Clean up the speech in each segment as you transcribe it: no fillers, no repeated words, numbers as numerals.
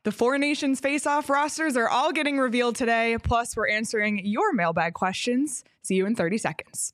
The Four Nations face-off rosters are all getting revealed today. Plus, we're answering your mailbag questions. See you in 30 seconds.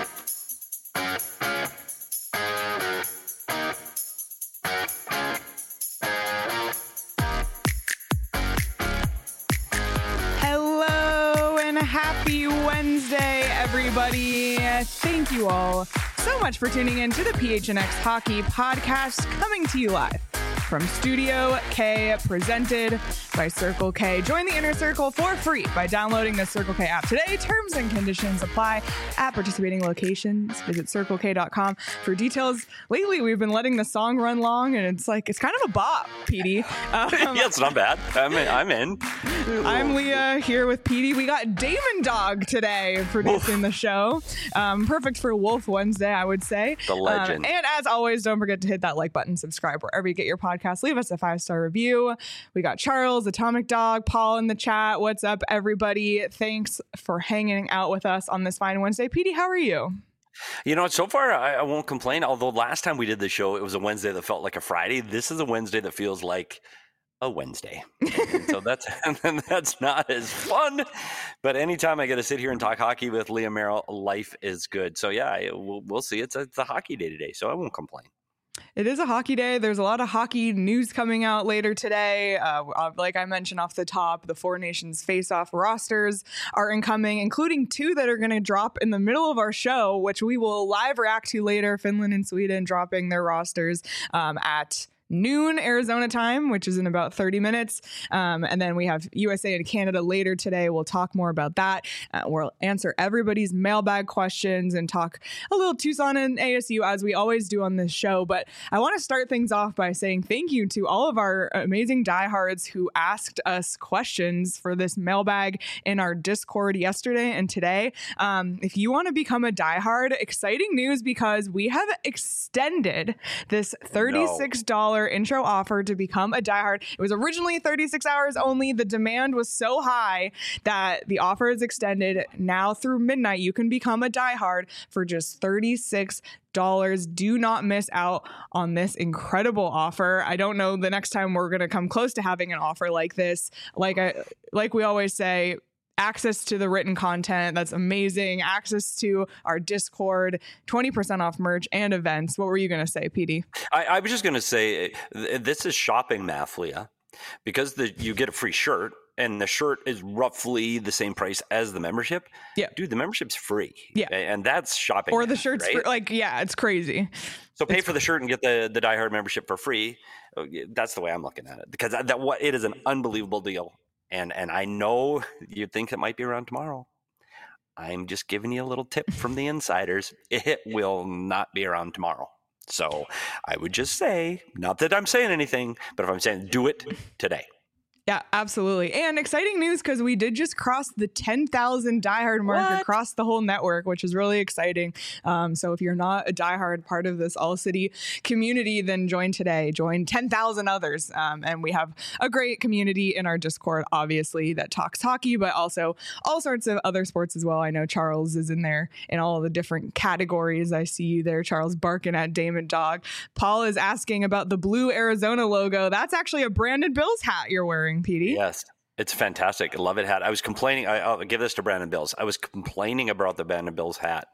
Hello and happy Wednesday, everybody. Thank you all so much for tuning in to the PHNX Hockey Podcast, coming to you live from Studio K, presented by Circle K. Join the Inner Circle for free by downloading the Circle K app today. Terms and conditions apply at participating locations. Visit CircleK.com for details. Lately, we've been letting the song run long, and it's kind of a bop, Petey. Yeah, it's not bad. I'm in. I'm Leah here with Petey. We got Damon Dog today producing the show. Perfect for Wolf Wednesday, I would say. The legend. And as always, don't forget to hit that like button, subscribe wherever you get your podcast. Leave us a 5-star review. We got Charles, Atomic Dog, Paul in the chat. What's up, everybody? Thanks for hanging out with us on this fine Wednesday. Petey, how are you? You know, so far I won't complain. Although last time we did the show, it was a Wednesday that felt like a Friday. This is a Wednesday that feels like a Wednesday. So that's not as fun. But anytime I get to sit here and talk hockey with Leah Merrill, life is good. So yeah, we'll see. It's a hockey day today, so I won't complain. It is a hockey day. There's a lot of hockey news coming out later today. Like I mentioned off the top, the Four Nations face-off rosters are incoming, including 2 that are going to drop in the middle of our show, which we will live react to later. Finland and Sweden dropping their rosters at noon Arizona time, which is in about 30 minutes. And then we have USA and Canada later today. We'll talk more about that. We'll answer everybody's mailbag questions and talk a little Tucson and ASU as we always do on this show. But I want to start things off by saying thank you to all of our amazing diehards who asked us questions for this mailbag in our Discord yesterday and today. If you want to become a diehard, exciting news because we have extended this $36 intro offer to become a diehard. It was originally 36 hours only. The demand was so high that the offer is extended now through midnight. You can become a diehard for just $36. Do not miss out on this incredible offer. I don't know the next time we're going to come close to having an offer like this. Like we always say, access to the written content. That's amazing. Access to our Discord, 20% off merch and events. What were you going to say, PD? I was just going to say, this is shopping math, Leah, because you get a free shirt and the shirt is roughly the same price as the membership. Yeah. Dude, the membership's free. Yeah. And that's shopping. Or the math, shirt's right? free. It's crazy. So pay for the shirt and get the diehard membership for free. That's the way I'm looking at it, because it is an unbelievable deal. And I know you think it might be around tomorrow. I'm just giving you a little tip from the insiders. It will not be around tomorrow. So I would just say, not that I'm saying anything, but if I'm saying do it today. Yeah, absolutely. And exciting news because we did just cross the 10,000 diehard mark across the whole network, which is really exciting. So if you're not a diehard part of this All City community, then join today. Join 10,000 others. And we have a great community in our Discord, obviously, that talks hockey, but also all sorts of other sports as well. I know Charles is in there in all of the different categories. I see you there, Charles, barking at Damon Dog. Paul is asking about the blue Arizona logo. That's actually a Brandon Bills hat you're wearing, PD. Yes, it's fantastic. I love it hat. I was complaining. I'll give this to Brandon Bills. I was complaining about the Brandon Bills hat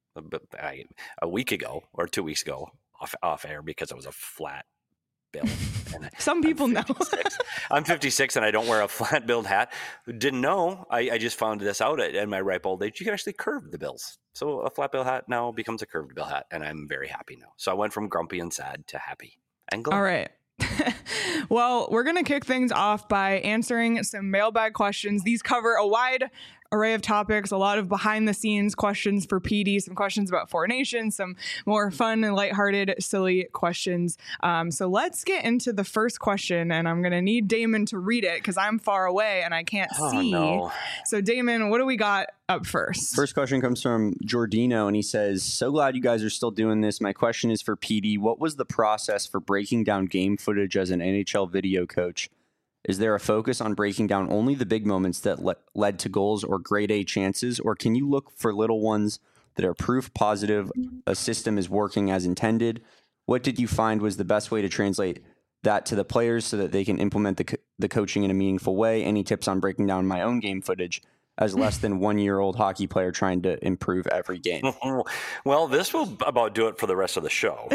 a week ago or 2 weeks ago off air because it was a flat bill. And some people know. I'm 56 and I don't wear a flat billed hat. Didn't know. I just found this out at my ripe old age. You can actually curve the bills. So a flat bill hat now becomes a curved bill hat, and I'm very happy now. So I went from grumpy and sad to happy and glad. All right. Well, we're going to kick things off by answering some mailbag questions. These cover a wide array of topics, a lot of behind the scenes questions for PD, some questions about Four Nations, some more fun and lighthearted, silly questions. So let's get into the first question, and I'm going to need Damon to read it because I'm far away and I can't see. No. So Damon, what do we got up first? First question comes from Jordino, and he says, so glad you guys are still doing this. My question is for PD. What was the process for breaking down game footage as an NHL video coach? Is there a focus on breaking down only the big moments that led to goals or grade A chances, or can you look for little ones that are proof positive a system is working as intended? What did you find was the best way to translate that to the players so that they can implement the coaching in a meaningful way? Any tips on breaking down my own game footage as less than 1-year-old hockey player trying to improve every game? Well, this will about do it for the rest of the show.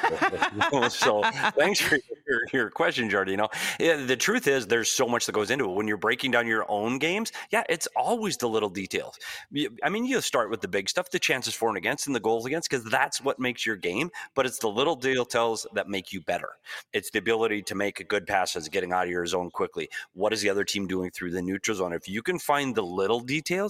So thanks for your question, Giardino. Yeah, the truth is there's so much that goes into it. When you're breaking down your own games, it's always the little details. I mean, you start with the big stuff, the chances for and against and the goals against, because that's what makes your game. But it's the little details that make you better. It's the ability to make good passes, getting out of your zone quickly. What is the other team doing through the neutral zone? If you can find the little details,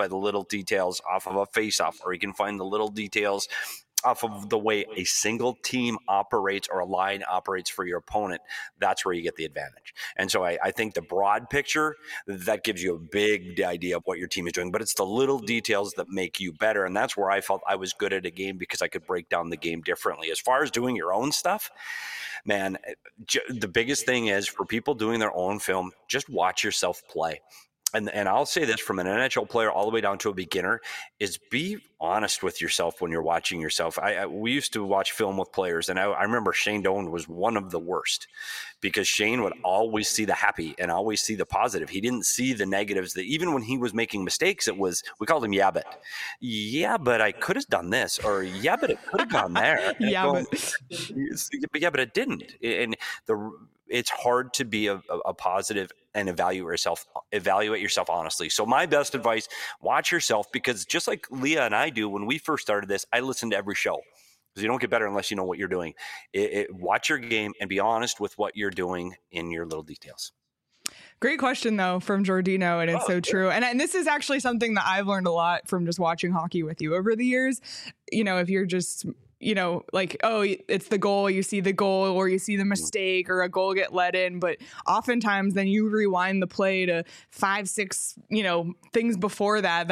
off of a face-off, or you can find the little details off of the way a single team operates or a line operates for your opponent, that's where you get the advantage. And so I think the broad picture, that gives you a big idea of what your team is doing, but it's the little details that make you better. And that's where I felt I was good at a game, because I could break down the game differently. As far as doing your own stuff, man, the biggest thing is for people doing their own film, just watch yourself play. And I'll say this from an NHL player all the way down to a beginner, is be honest with yourself when you're watching yourself. We used to watch film with players, and I remember Shane Doan was one of the worst, because Shane would always see the happy and always see the positive. He didn't see the negatives. That even when he was making mistakes, we called him but I could have done this, or but it could have gone there. But it didn't. And it's hard to be a positive and evaluate yourself honestly. So my best advice, watch yourself, because just like Leah and I do, when we first started this, I listened to every show, because you don't get better unless you know what you're doing. Watch your game and be honest with what you're doing in your little details. Great question, though, from Giardino, and it's so true. And this is actually something that I've learned a lot from just watching hockey with you over the years. If you're just like, it's the goal, you see the goal, or you see the mistake, or a goal get let in. But oftentimes then you rewind the play to 5-6, things before that's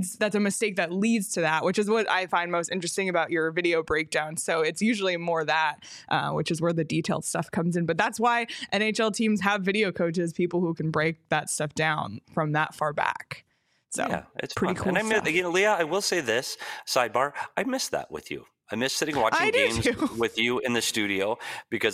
a mistake that leads to that, which is what I find most interesting about your video breakdown. So it's usually more that, which is where the detailed stuff comes in. But that's why NHL teams have video coaches, people who can break that stuff down from that far back. So yeah, it's pretty fun. cool. And Leah, I will say this, sidebar, I miss that with you. I miss sitting watching games with you in the studio, because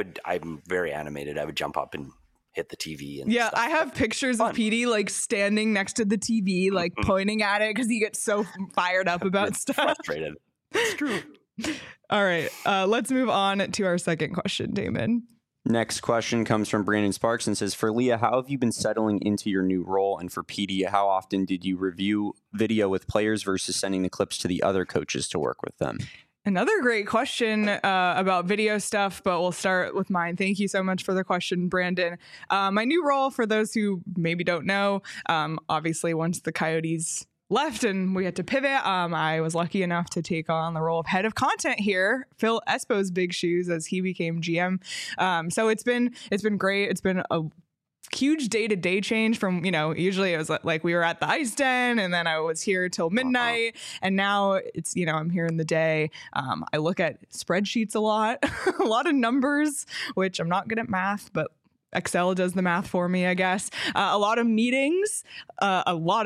I'm very animated. I would jump up and hit the TV. And stuff. I have pictures of Petey like standing next to the TV, like pointing at it, because he gets so fired up about stuff. Frustrated. It's true. All right, let's move on to our second question, Damon. Next question comes from Brandon Sparks and says, for Leah, how have you been settling into your new role? And for PD, how often did you review video with players versus sending the clips to the other coaches to work with them? Another great question about video stuff, but we'll start with mine. Thank you so much for the question, Brandon. My new role, for those who maybe don't know, obviously once the Coyotes left and we had to pivot, I was lucky enough to take on the role of head of content here, fill Espo's big shoes as he became GM. So it's been great. It's been a huge day-to-day change from, usually it was like we were at the ice den and then I was here till midnight, and now it's, I'm here in the day. I look at spreadsheets a lot, a lot of numbers, which I'm not good at math, but Excel does the math for me, I guess. A lot of meetings, but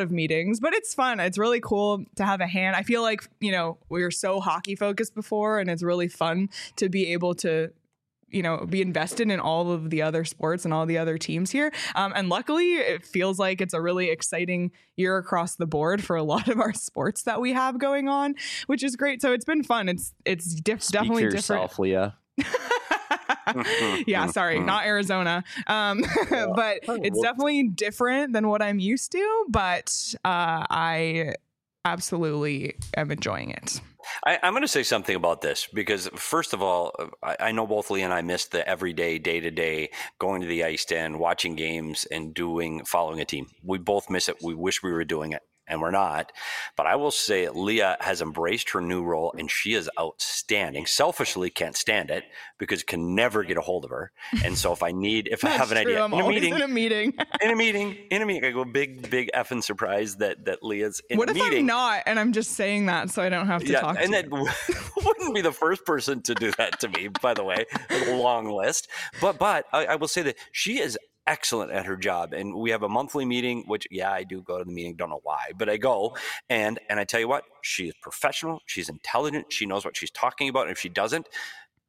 it's fun. It's really cool to have a hand. I feel like, we were so hockey focused before, and it's really fun to be able to, be invested in all of the other sports and all the other teams here. And luckily, it feels like it's a really exciting year across the board for a lot of our sports that we have going on, which is great. So it's been fun. It's definitely different. Yourself, Leah. Yeah, sorry, not Arizona. But it's definitely different than what I'm used to, but I absolutely am enjoying it. I'm going to say something about this, because first of all, I know both Lee and I missed the everyday, day-to-day, going to the ice den, watching games, and following a team. We both miss it. We wish we were doing it, and we're not. But I will say Leah has embraced her new role, and she is outstanding. Selfishly, can't stand it because can never get a hold of her. And so if I have an idea, I'm always in a meeting, I go big effing surprise that Leah's in a meeting. What if I'm not, and I'm just saying that so I don't have to talk to you? And that wouldn't be the first person to do that to me, by the way. A long list. But I will say that she is excellent at her job, and we have a monthly meeting, which I do go to the meeting, don't know why, but I go, and I tell you what, she is professional, she's intelligent, she knows what she's talking about, and if she doesn't,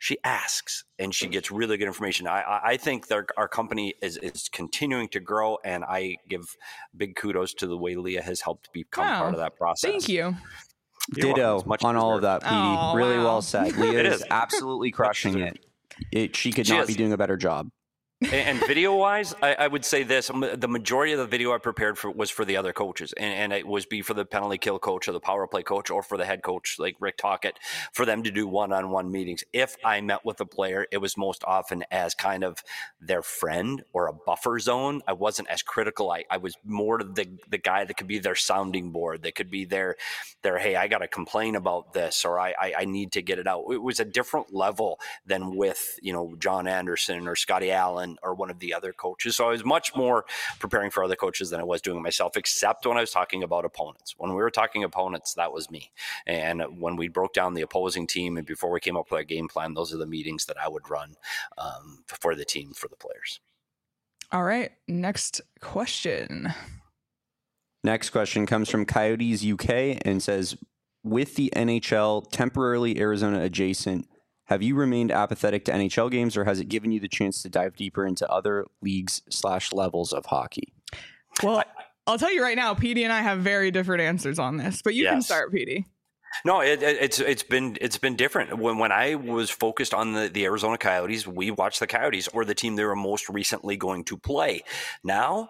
She asks, and she gets really good information. I think our company is continuing to grow, and I give big kudos to the way Leah has helped become part of that process. Thank you. Ditto on all of that, Petey. Oh, really wow. well said. Leah It is is. absolutely crushing it. She could not be doing a better job. And video-wise, I would say this: the majority of the video I prepared was for the other coaches, and it was for the penalty kill coach or the power play coach or for the head coach like Rick Tocchet, for them to do one-on-one meetings. If I met with a player, it was most often as kind of their friend or a buffer zone. I wasn't as critical. I was more the guy that could be their sounding board. That could be their hey, I got to complain about this, or I need to get it out. It was a different level than with John Anderson or Scotty Allen or one of the other coaches. So I was much more preparing for other coaches than I was doing it myself, except when I was talking about opponents. When we were talking opponents, that was me. And when we broke down the opposing team and before we came up with our game plan, those are the meetings that I would run for the team, for the players. All right. Next question. Next question comes from Coyotes UK and says, with the NHL temporarily Arizona adjacent, have you remained apathetic to NHL games, or has it given you the chance to dive deeper into other leagues/levels of hockey? Well, I'll tell you right now, Petey and I have very different answers on this, but you can start, Petey. No, it's been different. When I was focused on the Arizona Coyotes, we watched the Coyotes or the team they were most recently going to play. Now,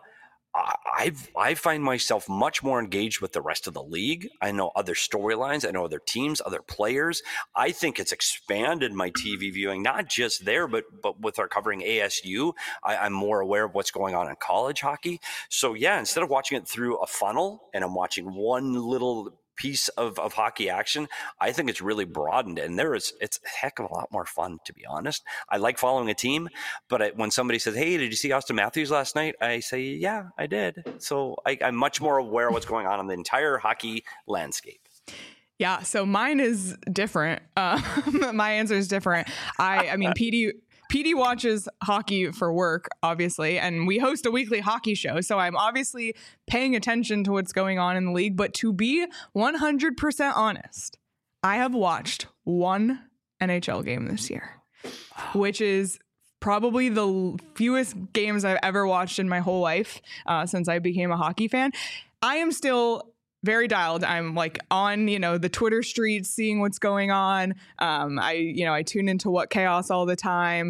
I find myself much more engaged with the rest of the league. I know other storylines. I know other teams, other players. I think it's expanded my TV viewing, not just there, but with our covering ASU, I'm more aware of what's going on in college hockey. So yeah, instead of watching it through a funnel and I'm watching one little piece of hockey action, I think it's really broadened, and it's a heck of a lot more fun, to be honest. I like following a team, but when somebody says, hey, did you see Austin Matthews last night? I say, yeah, I did. So I'm much more aware of what's going on in the entire hockey landscape. Yeah, so mine is different. My answer is different. I mean, Petey watches hockey for work, obviously, and we host a weekly hockey show. So I'm obviously paying attention to what's going on in the league. But to be 100% honest, I have watched one NHL game this year, which is probably the fewest games I've ever watched in my whole life since I became a hockey fan. I am still very dialed. I'm like on, the Twitter streets, seeing what's going on. I tune into What Chaos all the time.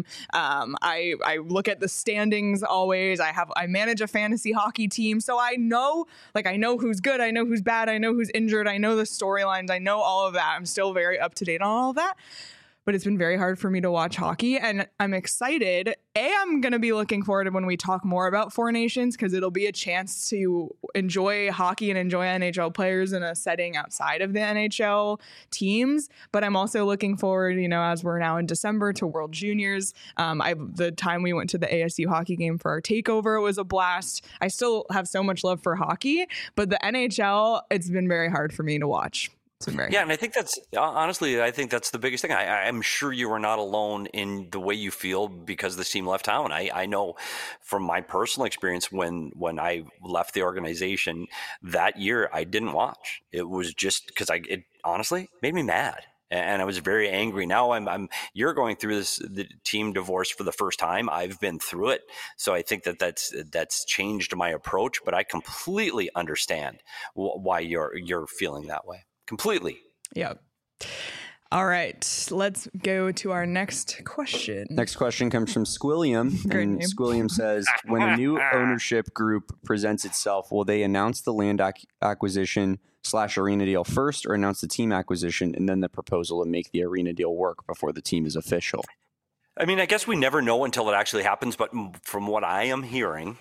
I look at the standings always. I manage a fantasy hockey team. So I know who's good. I know who's bad. I know who's injured. I know the storylines. I know all of that. I'm still very up to date on all of that. But it's been very hard for me to watch hockey, and I'm excited. I'm going to be looking forward to when we talk more about Four Nations, because it'll be a chance to enjoy hockey and enjoy NHL players in a setting outside of the NHL teams. But I'm also looking forward, as we're now in December, to World Juniors. The time we went to the ASU hockey game for our takeover, it was a blast. I still have so much love for hockey, but the NHL, it's been very hard for me to watch. Yeah, and I think that's the biggest thing. I'm sure you are not alone in the way you feel because the team left town. I know from my personal experience when I left the organization that year, I didn't watch. It was just because it honestly made me mad. And I was very angry. Now you're going through the team divorce for the first time. I've been through it. So I think that's changed my approach, but I completely understand why you're feeling that way. Completely. Yeah. All right. Let's go to our next question. Next question comes from Squilliam. Great and name. Squilliam says, when a new ownership group presents itself, will they announce the land acquisition / arena deal first, or announce the team acquisition and then the proposal to make the arena deal work before the team is official? I mean, I guess we never know until it actually happens, but from what I am hearing,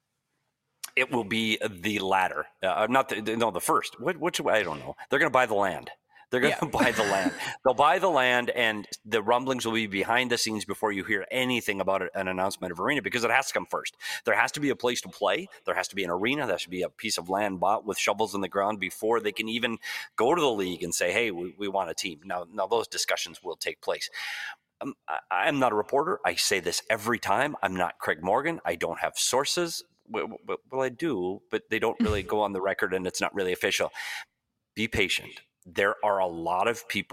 it will be the latter, the first. Which I don't know. They're going to buy the land. They're going to buy the land. They'll buy the land, and the rumblings will be behind the scenes before you hear anything about an announcement of arena, because it has to come first. There has to be a place to play. There has to be an arena. There should be a piece of land bought with shovels in the ground before they can even go to the league and say, hey, we want a team. Now those discussions will take place. I'm not a reporter. I say this every time. I'm not Craig Morgan. I don't have sources. Well, I do, but they don't really go on the record, and it's not really official. Be patient. There are a lot of people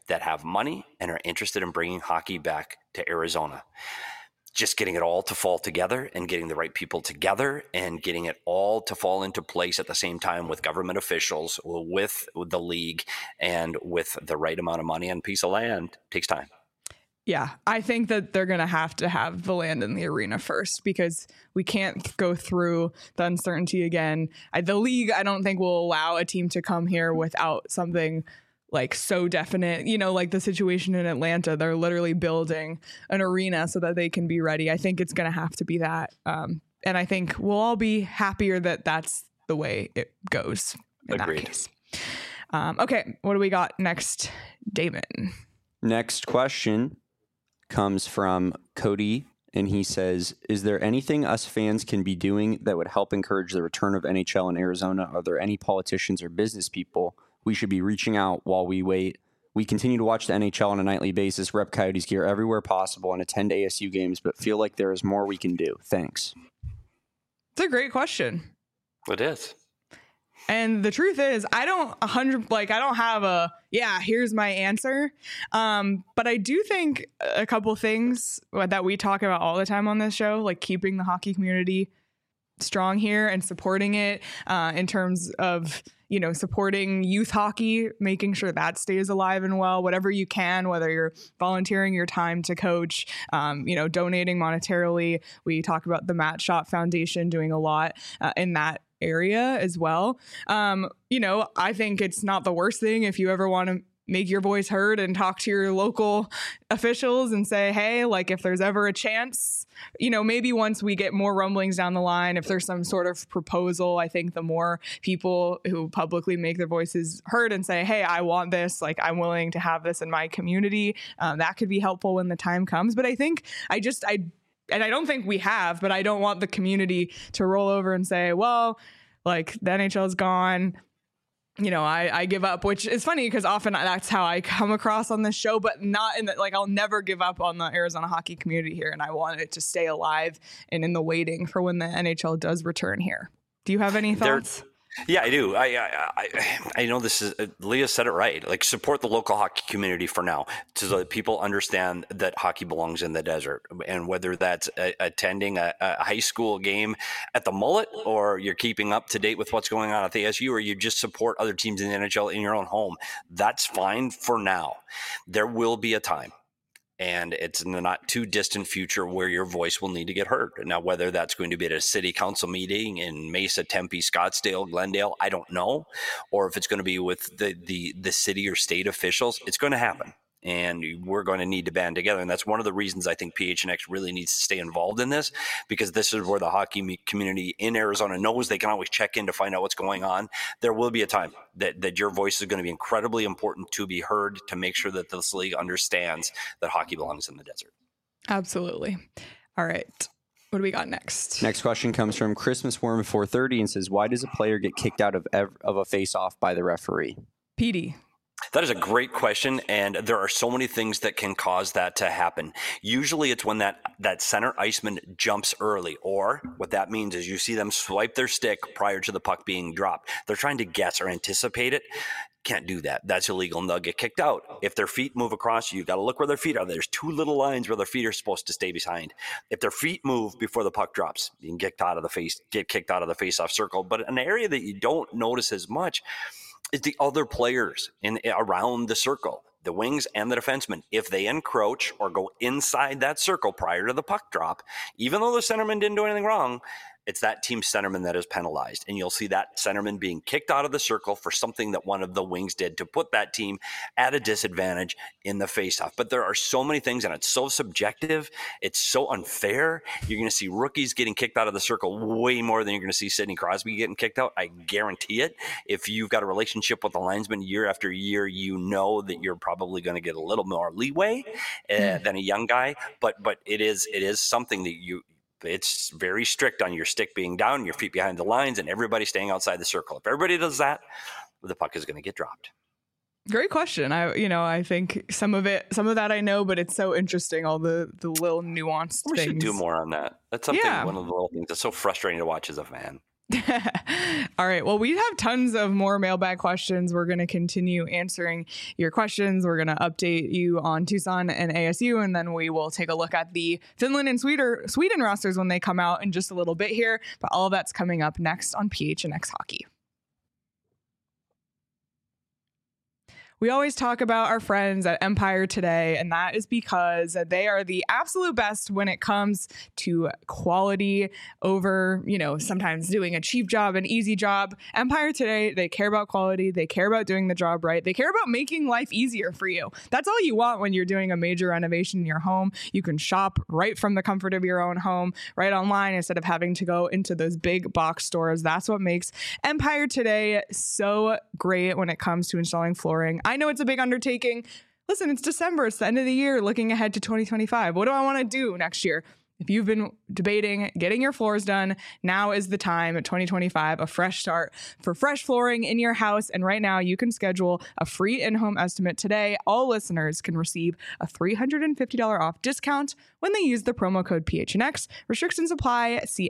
that have money and are interested in bringing hockey back to Arizona. Just getting it all to fall together and getting the right people together and getting it all to fall into place at the same time with government officials, with the league, and with the right amount of money and piece of land takes time. Yeah, I think that they're going to have the land in the arena first, because we can't go through the uncertainty again. The league, I don't think, will allow a team to come here without something like so definite, like the situation in Atlanta. They're literally building an arena so that they can be ready. I think it's going to have to be that. And I think we'll all be happier that that's the way it goes in Agreed. that case. Okay, what do we got next, Damon? Next question comes from Cody, and he says, is there anything us fans can be doing that would help encourage the return of NHL in Arizona? Are there any politicians or business people we should be reaching out while we wait? We continue to watch the NHL on a nightly basis, rep Coyotes gear everywhere possible, and attend ASU games, but feel like there is more we can do. Thanks. It's a great question. It is. And the truth is, I don't have here's my answer. But I do think a couple things that we talk about all the time on this show, like keeping the hockey community strong here and supporting it in terms of, supporting youth hockey, making sure that stays alive and well, whatever you can, whether you're volunteering your time to coach, donating monetarily. We talk about the Matt Schott Foundation doing a lot in that area as well. I think it's not the worst thing if you ever want to make your voice heard and talk to your local officials and say, hey, like if there's ever a chance, maybe once we get more rumblings down the line, if there's some sort of proposal, I think the more people who publicly make their voices heard and say, hey, I want this, like I'm willing to have this in my community, that could be helpful when the time comes. But I think and I don't think we have, but I don't want the community to roll over and say, well, like the NHL is gone. I give up, which is funny because often that's how I come across on this show, but not in I'll never give up on the Arizona hockey community here. And I want it to stay alive and in the waiting for when the NHL does return here. Do you have any thoughts? Yeah, I do. I know this is Leah said it right. Like support the local hockey community for now, so that people understand that hockey belongs in the desert. And whether that's attending a high school game at the Mullet, or you're keeping up to date with what's going on at the ASU, or you just support other teams in the NHL in your own home, that's fine for now. There will be a time, and it's in the not too distant future, where your voice will need to get heard. Now, whether that's going to be at a city council meeting in Mesa, Tempe, Scottsdale, Glendale, I don't know. Or if it's going to be with the city or state officials, it's going to happen. And we're going to need to band together. And that's one of the reasons I think PHNX really needs to stay involved in this, because this is where the hockey community in Arizona knows they can always check in to find out what's going on. There will be a time that your voice is going to be incredibly important to be heard, to make sure that this league understands that hockey belongs in the desert. Absolutely. All right. What do we got next? Next question comes from Christmas Worm 430 and says, why does a player get kicked out of a face-off by the referee? PD. That is a great question, and there are so many things that can cause that to happen. Usually it's when that center iceman jumps early, or what that means is you see them swipe their stick prior to the puck being dropped. They're trying to guess or anticipate it. Can't do that. That's illegal, and they'll get kicked out. If their feet move across, you got to look where their feet are. There's two little lines where their feet are supposed to stay behind. If their feet move before the puck drops, you can get kicked out of the face-off circle. But an area that you don't notice as much is the other players around the circle, the wings and the defensemen. If they encroach or go inside that circle prior to the puck drop, even though the centerman didn't do anything wrong, it's that team centerman that is penalized. And you'll see that centerman being kicked out of the circle for something that one of the wings did to put that team at a disadvantage in the faceoff. But there are so many things, and it's so subjective. It's so unfair. You're going to see rookies getting kicked out of the circle way more than you're going to see Sidney Crosby getting kicked out. I guarantee it. If you've got a relationship with a linesman year after year, you know that you're probably going to get a little more leeway than a young guy. But it is something that it's very strict on your stick being down, your feet behind the lines, and everybody staying outside the circle. If everybody does that, the puck is going to get dropped. Great question. I think some of that I know, but it's so interesting, all the little nuanced things. We should do more on that. That's something, one of the little things that's so frustrating to watch as a fan. All right. Well, we have tons of more mailbag questions. We're going to continue answering your questions. We're going to update you on Tucson and ASU, and then we will take a look at the Finland and Sweden rosters when they come out in just a little bit here. But all of that's coming up next on PHNX Hockey. We always talk about our friends at Empire Today, and that is because they are the absolute best when it comes to quality over, sometimes doing a cheap job, an easy job. Empire Today, they care about quality. They care about doing the job right. They care about making life easier for you. That's all you want when you're doing a major renovation in your home. You can shop right from the comfort of your own home, right online, instead of having to go into those big box stores. That's what makes Empire Today so great when it comes to installing flooring. I know it's a big undertaking. Listen, it's December. It's the end of the year, looking ahead to 2025. What do I want to do next year? If you've been debating getting your floors done, now is the time. 2025, a fresh start for fresh flooring in your house. And right now, you can schedule a free in-home estimate today. All listeners can receive a $350 off discount when they use the promo code PHNX. Restrictions apply. See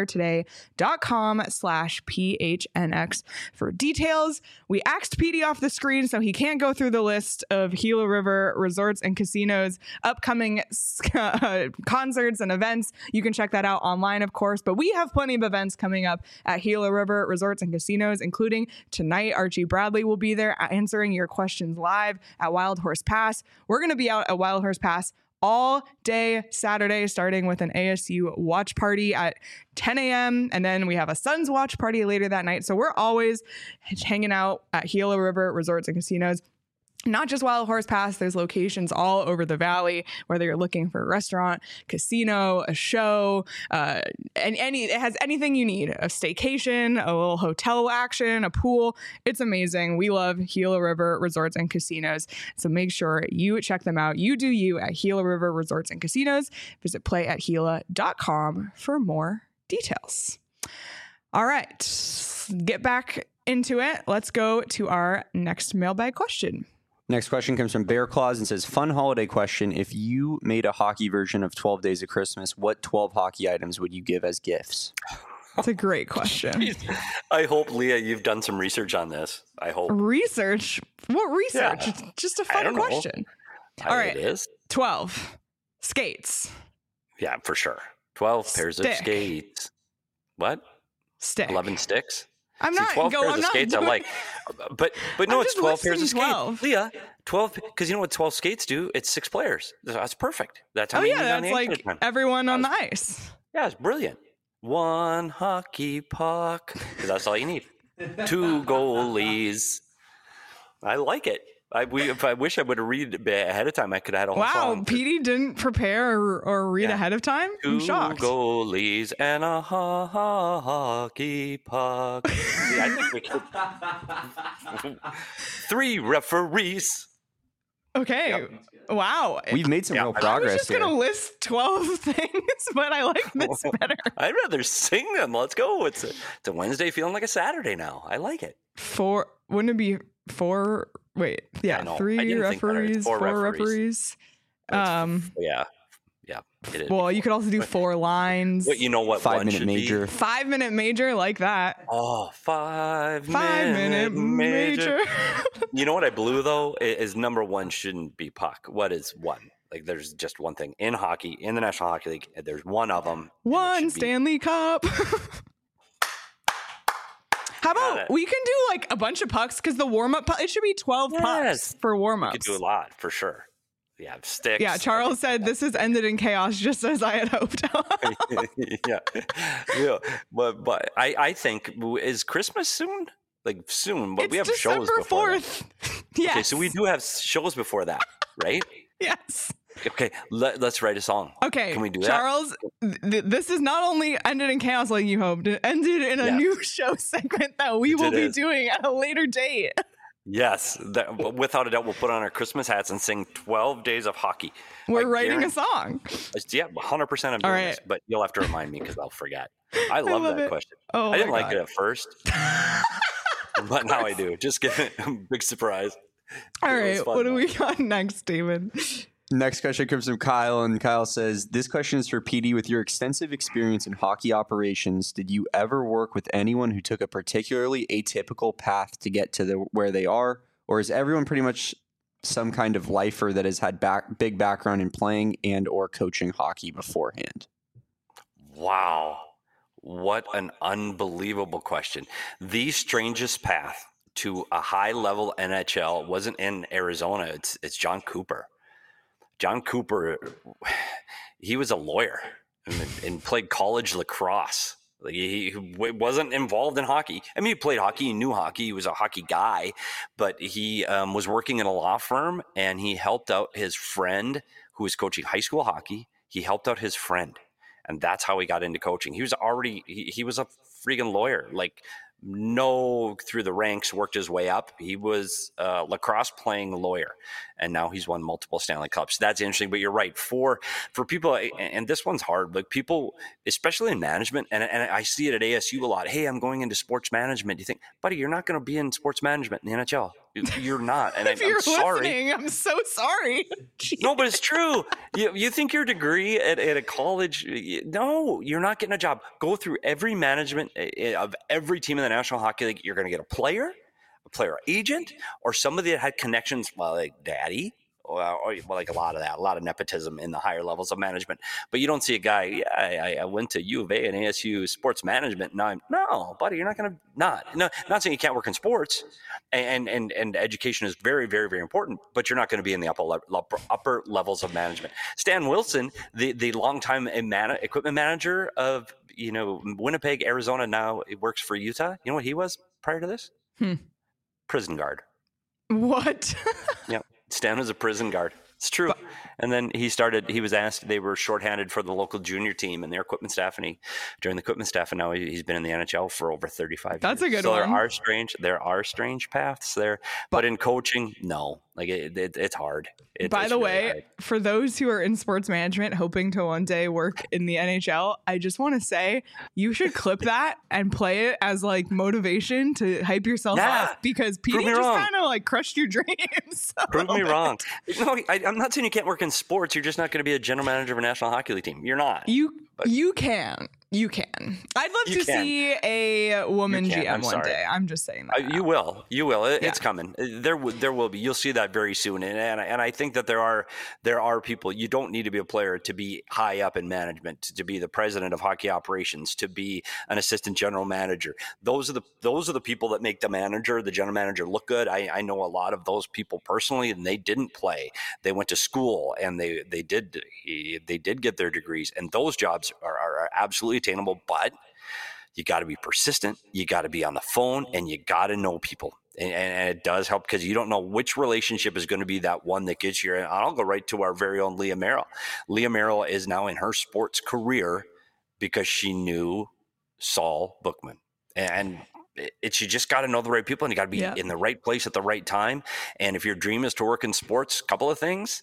empiretoday.com/PHNX for details. We axed PD off the screen, so he can't go through the list of Gila River Resorts and Casinos upcoming concerts and events. You can check that out online, of course, but we have plenty of events coming up at Gila River Resorts and Casinos, including tonight. Archie Bradley will be there answering your questions live at Wild Horse Pass. We're going to be out at Wild Horse Pass all day Saturday, starting with an ASU watch party at 10 a.m. And then we have a Suns watch party later that night. So we're always hanging out at Gila River Resorts and Casinos. Not just Wild Horse Pass, there's locations all over the valley, whether you're looking for a restaurant, casino, a show, and it has anything you need, a staycation, a little hotel action, a pool. It's amazing. We love Gila River Resorts and Casinos. So make sure you check them out. You do you at Gila River Resorts and Casinos. Visit playatgila.com for more details. All right, get back into it. Let's go to our next mailbag question. Next question comes from Bear Claus and says, fun holiday question. If you made a hockey version of 12 Days of Christmas, what 12 hockey items would you give as gifts? That's a great question. I hope, Leah, you've done some research on this. I hope. Research? What research? Yeah. It's just a fun question. All right. It is. 12 skates. Yeah, for sure. 12 pairs of skates. What? Stick. 11 sticks? I'm not 12 going pairs of skates I like. But no, it's 12 pairs of 12. skates. Leah, 12, because you know what 12 skates do? It's 6 players. That's perfect. That's how many that's like everyone on the ice. Yeah, it's brilliant. 1 hockey puck, because that's all you need. 2 goalies. I like it. I wish I would have read ahead of time. I could have had a whole song. Wow, Petey didn't prepare or read ahead of time? I'm shocked. 2 goalies and a hockey puck. See, I think we could. 3 referees. Okay. Yep. Wow. We've made some real progress. I was just going to list 12 things, but I like this better. I'd rather sing them. Let's go. It's a Wednesday feeling like a Saturday now. I like it. 4, wouldn't it be 4? Wait, yeah, 3 referees, 4 referees. Yeah, it is. Well, you could also do 4 lines. But you know what? 5-minute major. 5-minute major, like that. Oh, 5-minute major. You know what I blew though is number 1 shouldn't be puck. What is 1? Like there's just one thing in hockey, in the National Hockey League. There's one of them. 1 Stanley Cup. How about we can do like a bunch of pucks because the warm-up, it should be 12 pucks for warm-ups. We could do a lot for sure. Yeah, sticks. Yeah, Charles said this has ended in chaos just as I had hoped. yeah. But I think, is Christmas soon? Like soon, but we have December shows before 4th. Yes. Okay, so we do have shows before that, right? Yes. Okay, let's write a song. Okay, can we do Charles, that? This is not only ended in chaos like you hoped, it ended in a new show segment that we will be doing at a later date. Yes, without a doubt, we'll put on our Christmas hats and sing 12 Days of Hockey. We're writing a song. Yeah, 100% I'm doing this, but you'll have to remind me because I'll forget. I love that question. Oh, I didn't like it at first, but now I do. Just give it a big surprise. All right, what do we got next, David? Next question comes from Kyle, and Kyle says, this question is for PD. With your extensive experience in hockey operations, did you ever work with anyone who took a particularly atypical path to get to where they are? Or is everyone pretty much some kind of lifer that has had big background in playing and or coaching hockey beforehand? Wow. What an unbelievable question. The strangest path to a high-level NHL wasn't in Arizona. It's John Cooper. John Cooper, he was a lawyer and played college lacrosse. Like he wasn't involved in hockey. I mean, he played hockey, he knew hockey, he was a hockey guy, but he was working in a law firm, and he helped out his friend who was coaching high school hockey. He helped out his friend, and that's how he got into coaching. He was already, he was a freaking lawyer, like through the ranks, worked his way up. He was a lacrosse playing lawyer, and now he's won multiple Stanley Cups. That's interesting, but you're right. For people, and this one's hard, like people, especially in management, and I see it at ASU a lot. Hey, I'm going into sports management. You think, buddy, you're not going to be in sports management in the NHL. You're not. And If you're I'm sorry. listening, I'm so sorry. No, but it's true. You think your degree at a college, no, you're not getting a job. Go through every management of every team in the National Hockey League. You're going to get a player agent, or somebody that had connections, like daddy, or like a lot of nepotism in the higher levels of management. But you don't see a guy, I went to U of A and ASU sports management. No, buddy, you're not going to not saying you can't work in sports, and education is very, very, very important, but you're not going to be in the upper levels of management. Stan Wilson, the longtime equipment manager of Winnipeg, Arizona, now he works for Utah. You know what he was prior to this? Prison guard. What? Yeah. Stan was a prison guard. It's true. And then he was asked, they were shorthanded for the local junior team and their equipment staff, and he joined the equipment staff, and now he's been in the NHL for over 35 years. That's a good one. So there are strange paths there, but in coaching, no. Like it's hard. By the way, for those who are in sports management hoping to one day work in the NHL, I just want to say you should clip that and play it as like motivation to hype yourself up, because PD just kind of like crushed your dreams. Prove me wrong. No, I'm not saying you can't work in sports. You're just not going to be a general manager of a National Hockey League team. You're not. You can. I'd love to see a woman GM one day. I'm just saying that. You will. It's coming. There will be. You'll see that very soon. And I think that there are people. You don't need to be a player to be high up in management, to be the president of hockey operations, to be an assistant general manager. Those are the people that make the general manager look good. I know a lot of those people personally, and they didn't play. They went to school, and they did get their degrees, and those jobs are absolutely attainable, but you got to be persistent. You got to be on the phone, and you got to know people. And it does help, because you don't know which relationship is going to be that one that gets you. And I'll go right to our very own Leah Merrill. Leah Merrill is now in her sports career because she knew Saul Bookman. And you just got to know the right people, and you got to be in the right place at the right time. And if your dream is to work in sports, a couple of things.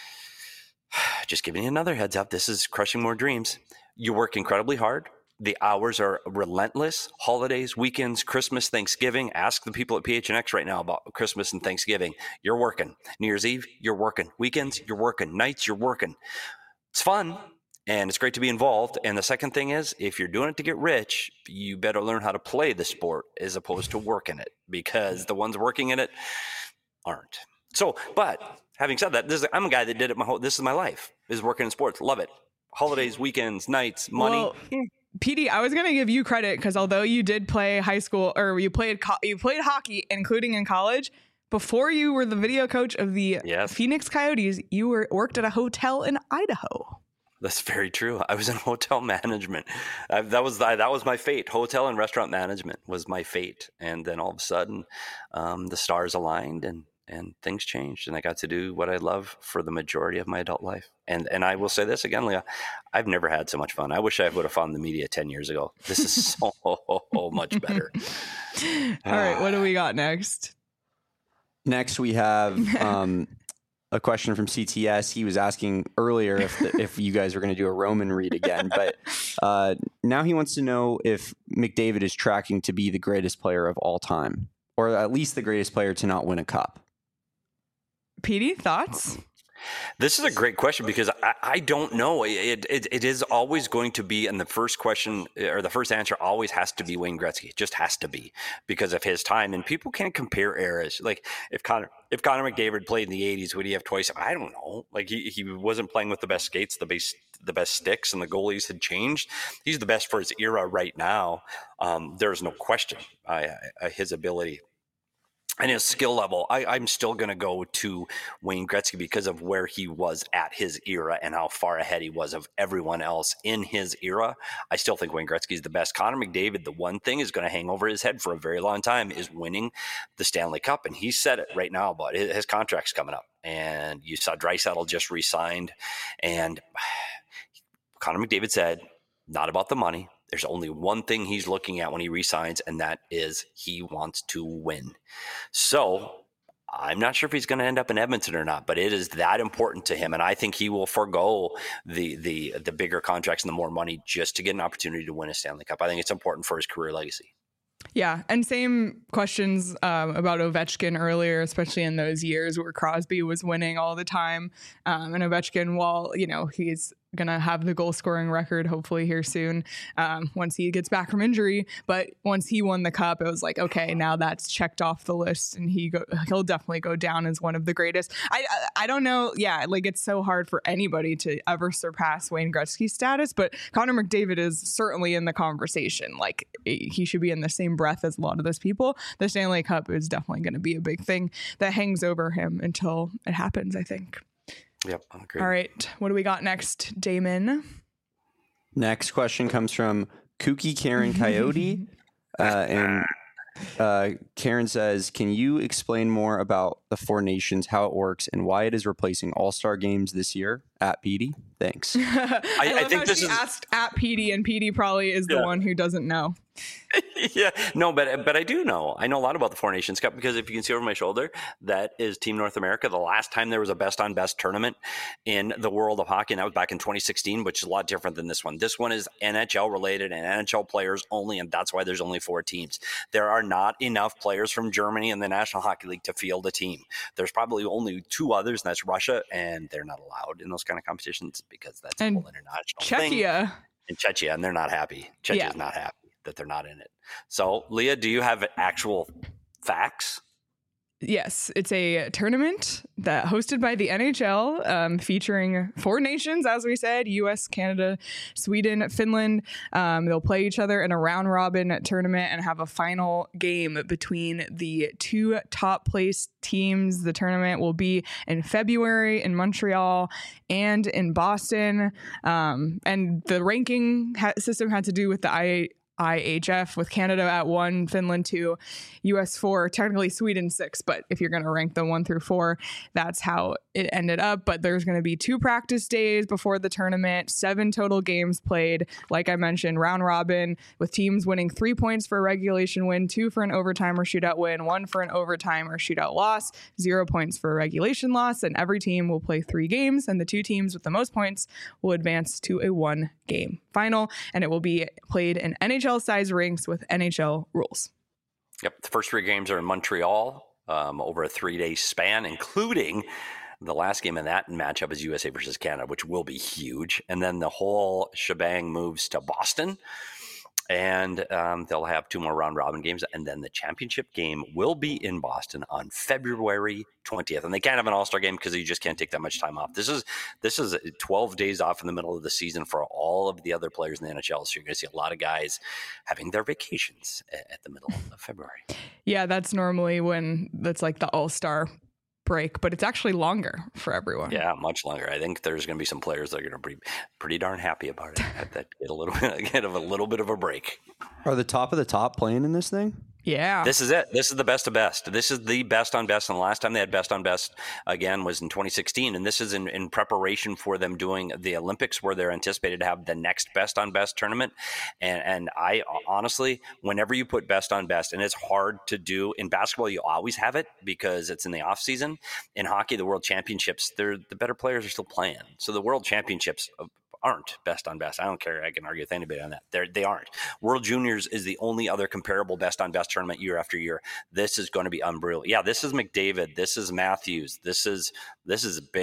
Just giving you another heads up. This is crushing more dreams. You work incredibly hard. The hours are relentless. Holidays, weekends, Christmas, Thanksgiving. Ask the people at PHNX right now about Christmas and Thanksgiving. You're working. New Year's Eve, you're working. Weekends, you're working. Nights, you're working. It's fun, and it's great to be involved. And the second thing is, if you're doing it to get rich, you better learn how to play the sport as opposed to work in it, because the ones working in it aren't. So, but having said that, I'm a guy that did it this is my life, is working in sports. Love it. Holidays, weekends, nights, money. Well, PD, I was going to give you credit, because although you did play high school, or you played hockey, including in college, before you were the video coach of the Phoenix Coyotes, you worked at a hotel in Idaho. That's very true. I was in hotel management. That was my fate. Hotel and restaurant management was my fate. And then all of a sudden, the stars aligned, and things changed, and I got to do what I love for the majority of my adult life. And I will say this again, Leah, I've never had so much fun. I wish I would have found the media 10 years ago. This is so much better. All right, what do we got next? Next, we have a question from CTS. He was asking earlier if you guys were going to do a Roman read again, but now he wants to know if McDavid is tracking to be the greatest player of all time, or at least the greatest player to not win a cup. PD, thoughts? This is a great question because I don't know. It is always going to be, and the first question or the first answer always has to be Wayne Gretzky. It just has to be because of his time. And people can't compare eras. Like if Connor McDavid played in the 80s, would he have twice? I don't know. Like he wasn't playing with the best skates, the best sticks, and the goalies had changed. He's the best for his era right now. There's no question his ability. And his skill level, I'm still going to go to Wayne Gretzky because of where he was at his era and how far ahead he was of everyone else in his era. I still think Wayne Gretzky is the best. Connor McDavid, the one thing is going to hang over his head for a very long time is winning the Stanley Cup. And he said it right now about his contract's coming up. And you saw Draisaitl just re-signed. And Connor McDavid said, not about the money. There's only one thing he's looking at when he resigns, and that is he wants to win. So I'm not sure if he's going to end up in Edmonton or not, but it is that important to him. And I think he will forego the bigger contracts and the more money just to get an opportunity to win a Stanley Cup. I think it's important for his career legacy. Yeah, and same questions about Ovechkin earlier, especially in those years where Crosby was winning all the time. And Ovechkin, while, he's going to have the goal scoring record hopefully here soon once he gets back from injury. But once he won the cup, it was like, okay, now that's checked off the list and he'll definitely go down as one of the greatest. I don't know. Yeah, like it's so hard for anybody to ever surpass Wayne Gretzky's status, but Connor McDavid is certainly in the conversation. Like he should be in the same breath as a lot of those people. The Stanley Cup is definitely going to be a big thing that hangs over him until it happens, I think. Yep, I agree. All right, what do we got next, Damon? Next question comes from Kooky Karen Coyote. And Karen says, can you explain more about the Four Nations, how it works, and why it is replacing All-Star games this year? At Petey? Thanks. I think this is asked at Petey, and Petey probably is the one who doesn't know. Yeah, no, but I do know. I know a lot about the Four Nations Cup because if you can see over my shoulder, that is Team North America. The last time there was a best on best tournament in the world of hockey, and that was back in 2016, which is a lot different than this one. This one is NHL related and NHL players only, and that's why there's only 4 teams. There are not enough players from Germany and the National Hockey League to field a team. There's probably only 2 others, and that's Russia, and they're not allowed in those kind of competitions because that's a whole international thing. And Czechia, and they're not happy. Czechia is not happy that they're not in it. So, Leah, do you have actual facts? Yes, it's a tournament that hosted by the NHL, featuring 4 nations, as we said, US, Canada, Sweden, Finland. They'll play each other in a round robin tournament and have a final game between the 2 top placed teams. The tournament will be in February in Montreal and in Boston. And the ranking system had to do with the IHF, with Canada at 1, Finland 2, US 4, technically Sweden 6, but if you're going to rank them 1 through 4, that's how it ended up. But there's going to be 2 practice days before the tournament, 7 total games played. Like I mentioned, round robin with teams winning 3 points for a regulation win, 2 for an overtime or shootout win, 1 for an overtime or shootout loss, 0 points for a regulation loss, and every team will play 3 games, and the 2 teams with the most points will advance to a 1-game final, and it will be played in NHL-sized rinks with NHL rules. Yep, the first 3 games are in Montreal over a 3-day span, including the last game in that matchup is USA versus Canada, which will be huge. And then the whole shebang moves to Boston, and they'll have 2 more round robin games. And then the championship game will be in Boston on February 20th. And they can't have an all-star game because you just can't take that much time off. This is 12 days off in the middle of the season for all of the other players in the NHL. So you're going to see a lot of guys having their vacations at the middle of February. Yeah, that's normally when that's like the all-star break, but it's actually longer for everyone. Yeah, much longer. I think there's going to be some players that are going to be pretty darn happy about it. That get a little bit of a break. Are the top of the top playing in this thing? Yeah. This is it. This is the best of best. This is the best on best. And the last time they had best on best again was in 2016. And this is in preparation for them doing the Olympics, where they're anticipated to have the next best on best tournament. And I honestly, whenever you put best on best, and it's hard to do in basketball, you always have it because it's in the off season. In hockey, the world championships, the better players are still playing. So the world championships aren't best on best. I don't care. I can argue with anybody on that. They aren't. World Juniors is the only other comparable best on best tournament year after year. This is going to be unreal. Yeah, this is McDavid. This is Matthews. This is big.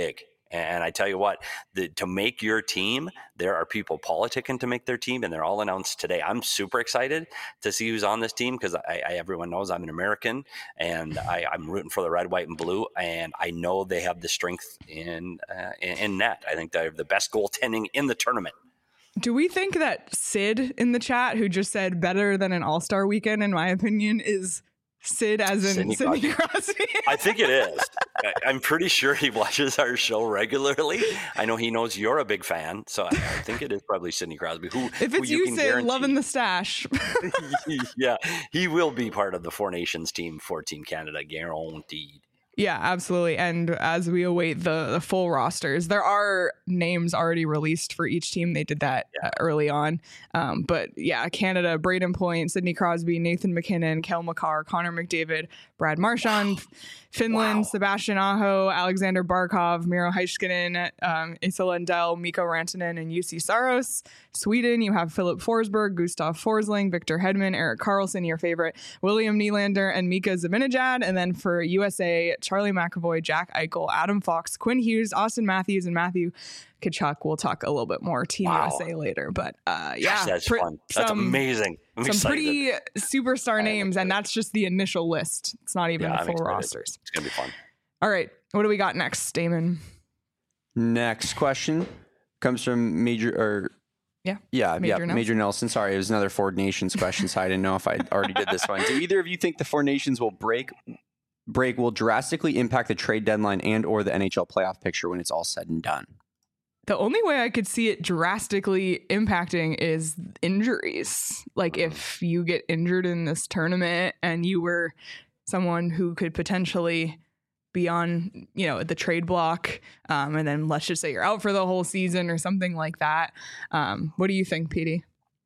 And I tell you what, to make your team, there are people politicking to make their team, and they're all announced today. I'm super excited to see who's on this team because everyone knows I'm an American, and I'm rooting for the red, white, and blue. And I know they have the strength in net. I think they have the best goaltending in the tournament. Do we think that Sid in the chat, who just said better than an All-Star weekend, in my opinion, is Sid as in Sidney Crosby? I think it is. I'm pretty sure he watches our show regularly. I know he knows you're a big fan, so I think it is probably Sidney Crosby. If it's you, Sid, loving the stash. Yeah, he will be part of the Four Nations team for Team Canada, guaranteed. Yeah, absolutely. And as we await the full rosters, there are names already released for each team. They did that early on. But yeah, Canada, Braden Point, Sidney Crosby, Nathan McKinnon, Kel McCarr, Connor McDavid, Brad Marchand, Finland, Sebastian Aho, Alexander Barkov, Miro Heiskanen, Asa Lundell, Mikko Rantanen, and UC Saros. Sweden, you have Philip Forsberg, Gustav Forsling, Victor Hedman, Erik Karlsson, your favorite, William Nylander, and Mika Zibanejad. And then for USA, Charlie McAvoy, Jack Eichel, Adam Fox, Quinn Hughes, Austin Matthews, and Matthew Tkachuk. We'll talk a little bit more Team USA later. But Gosh, that's fun. That's amazing. I'm some excited. Pretty superstar names, and that's just the initial list. It's not even the full rosters. It's going to be fun. All right. What do we got next, Damon? Next question comes from Major Nelson. Sorry, it was another Four Nations question, so I didn't know if I already did this one. Do either of you think the Four Nations will break will drastically impact the trade deadline and or the NHL playoff picture when it's all said and done? The only way I could see it drastically impacting is injuries. Like if you get injured in this tournament and you were someone who could potentially be on, the trade block, and then let's just say you're out for the whole season or something like that. What do you think, Petey?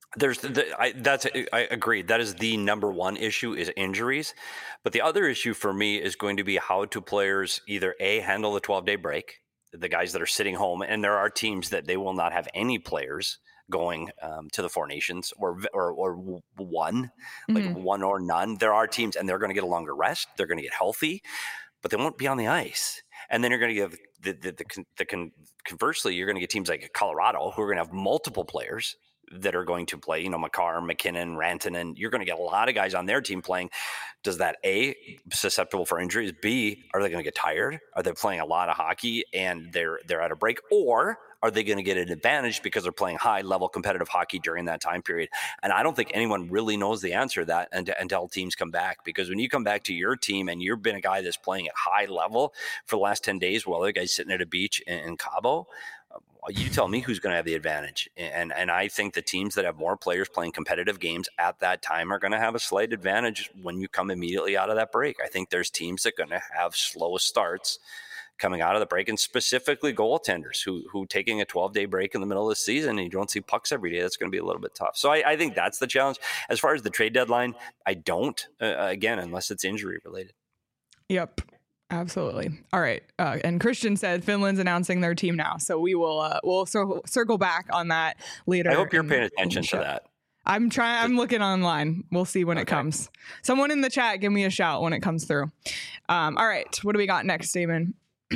I agree. That is the number one issue is injuries. But the other issue for me is going to be how do players either handle the 12-day break, the guys that are sitting home, and there are teams that they will not have any players going to the Four Nations or one, like one or none. There are teams, and they're going to get a longer rest. They're going to get healthy, but they won't be on the ice. And then you're going to give conversely, you're going to get teams like Colorado who are going to have multiple players that are going to play, Makar, McKinnon, Rantanen. You're going to get a lot of guys on their team playing. Does that A, susceptible for injuries? B, are they going to get tired? Are they playing a lot of hockey and they're at a break? Or are they going to get an advantage because they're playing high-level competitive hockey during that time period? And I don't think anyone really knows the answer to that until teams come back. Because when you come back to your team and you've been a guy that's playing at high level for the last 10 days while other guys sitting at a beach in Cabo, you tell me who's going to have the advantage. And I think the teams that have more players playing competitive games at that time are going to have a slight advantage when you come immediately out of that break. I think there's teams that are going to have slow starts coming out of the break, and specifically goaltenders who taking a 12-day break in the middle of the season and you don't see pucks every day, that's going to be a little bit tough. So I think that's the challenge. As far as the trade deadline, I don't, again, unless it's injury related. Yep. Absolutely. All right. And Christian said Finland's announcing their team now. So we'll circle back on that later. I hope you're paying attention to that. I'm looking online. We'll see when it comes. Someone in the chat, give me a shout when it comes through. All right. What do we got next, Damon?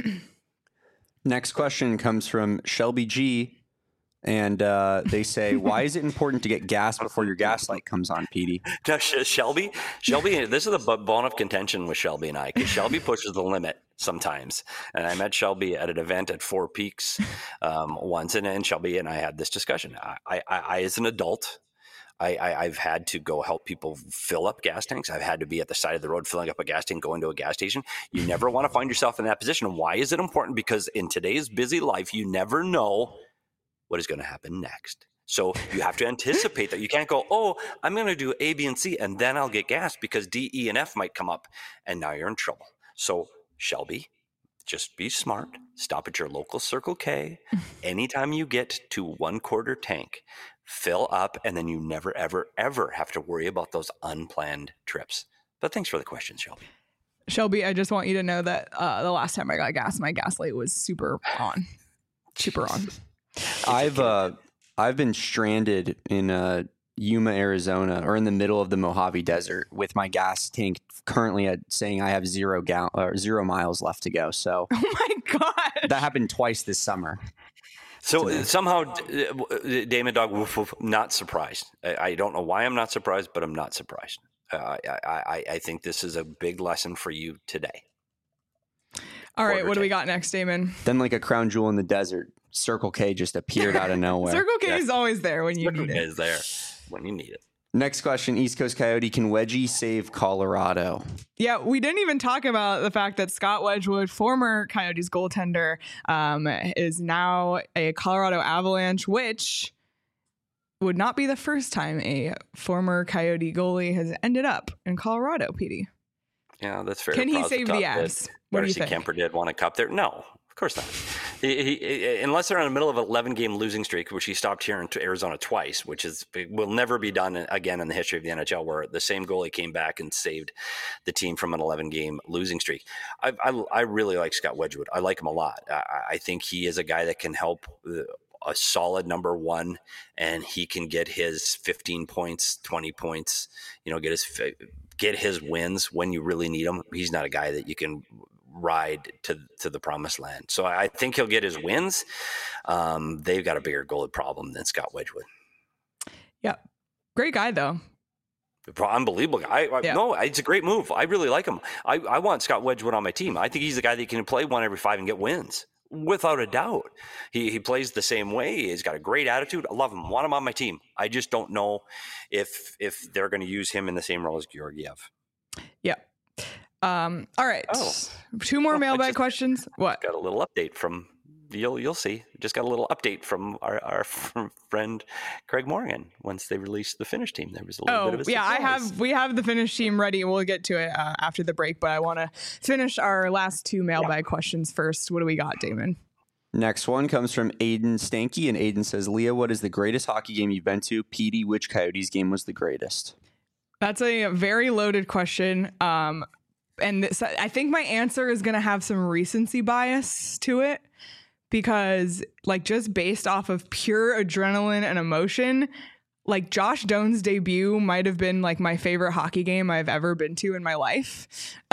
Next question comes from Shelby G. And they say, why is it important to get gas before your gas light comes on, Petey? Shelby, this is a bone of contention with Shelby and I, because Shelby pushes the limit sometimes. And I met Shelby at an event at Four Peaks once, and Shelby and I had this discussion. I as an adult, I've had to go help people fill up gas tanks. I've had to be at the side of the road filling up a gas tank, going to a gas station. You never want to find yourself in that position. Why is it important? Because in today's busy life, you never know what is going to happen next. So you have to anticipate that. You can't go, oh, I'm going to do A, B, and C, and then I'll get gas because D, E, and F might come up, and now you're in trouble. So Shelby, just be smart. Stop at your local Circle K. Anytime you get to 1/4 tank, fill up, and then you never, ever, ever have to worry about those unplanned trips. But thanks for the question, Shelby. Shelby, I just want you to know that the last time I got gas, my gas light was super on. Super on. I've been stranded in Yuma, Arizona, or in the middle of the Mojave Desert with my gas tank currently saying I have 0 miles left to go. So, oh my God. That happened twice this summer. So somehow, Damon Dog, woof, woof, not surprised. I don't know why I'm not surprised, but I'm not surprised. I think this is a big lesson for you today. All right, what do we got next, Damon? Then like a crown jewel in the desert, Circle K just appeared out of nowhere. Circle K is always there when you need it. Is there when you need it. Next question, East Coast Coyote, can Wedgie save Colorado? Yeah, we didn't even talk about the fact that Scott Wedgwood, former Coyotes goaltender, is now a Colorado Avalanche, which would not be the first time a former Coyote goalie has ended up in Colorado, PD. Yeah, that's fair. Can he save the Avs? What do you think? Kemper did want a cup there. No, of course not. He unless they're in the middle of an 11-game losing streak, which he stopped here in Arizona twice, which will never be done again in the history of the NHL, where the same goalie came back and saved the team from an 11-game losing streak. I really like Scott Wedgwood. I like him a lot. I think he is a guy that can help a solid number one, and he can get his 15 points, 20 points, get his wins when you really need him. He's not a guy that you can ride to the promised land. So I think he'll get his wins. They've got a bigger goalie problem than Scott Wedgwood. Yeah. Great guy, though. Unbelievable guy. Yeah. No, it's a great move. I really like him. I want Scott Wedgwood on my team. I think he's the guy that can play 1 every 5 and get wins. Without a doubt. He plays the same way. He's got a great attitude. I love him. Want him on my team. I just don't know if they're going to use him in the same role as Georgiev. Yeah. All right. 2 more mailbag questions. What? Got a little update from you'll see. Just got a little update from our friend Craig Morgan. Once they released the Finnish team, there was a little bit of a surprise. We have the Finnish team ready. We'll get to it after the break, but I want to finish our last 2 mailbag questions first. What do we got, Damon? Next one comes from Aiden Stanky, and Aiden says, Leah, what is the greatest hockey game you've been to? PD, which Coyotes game was the greatest? That's a very loaded question. And I think my answer is going to have some recency bias to it, because like just based off of pure adrenaline and emotion, like Josh Doan's debut might have been like my favorite hockey game I've ever been to in my life.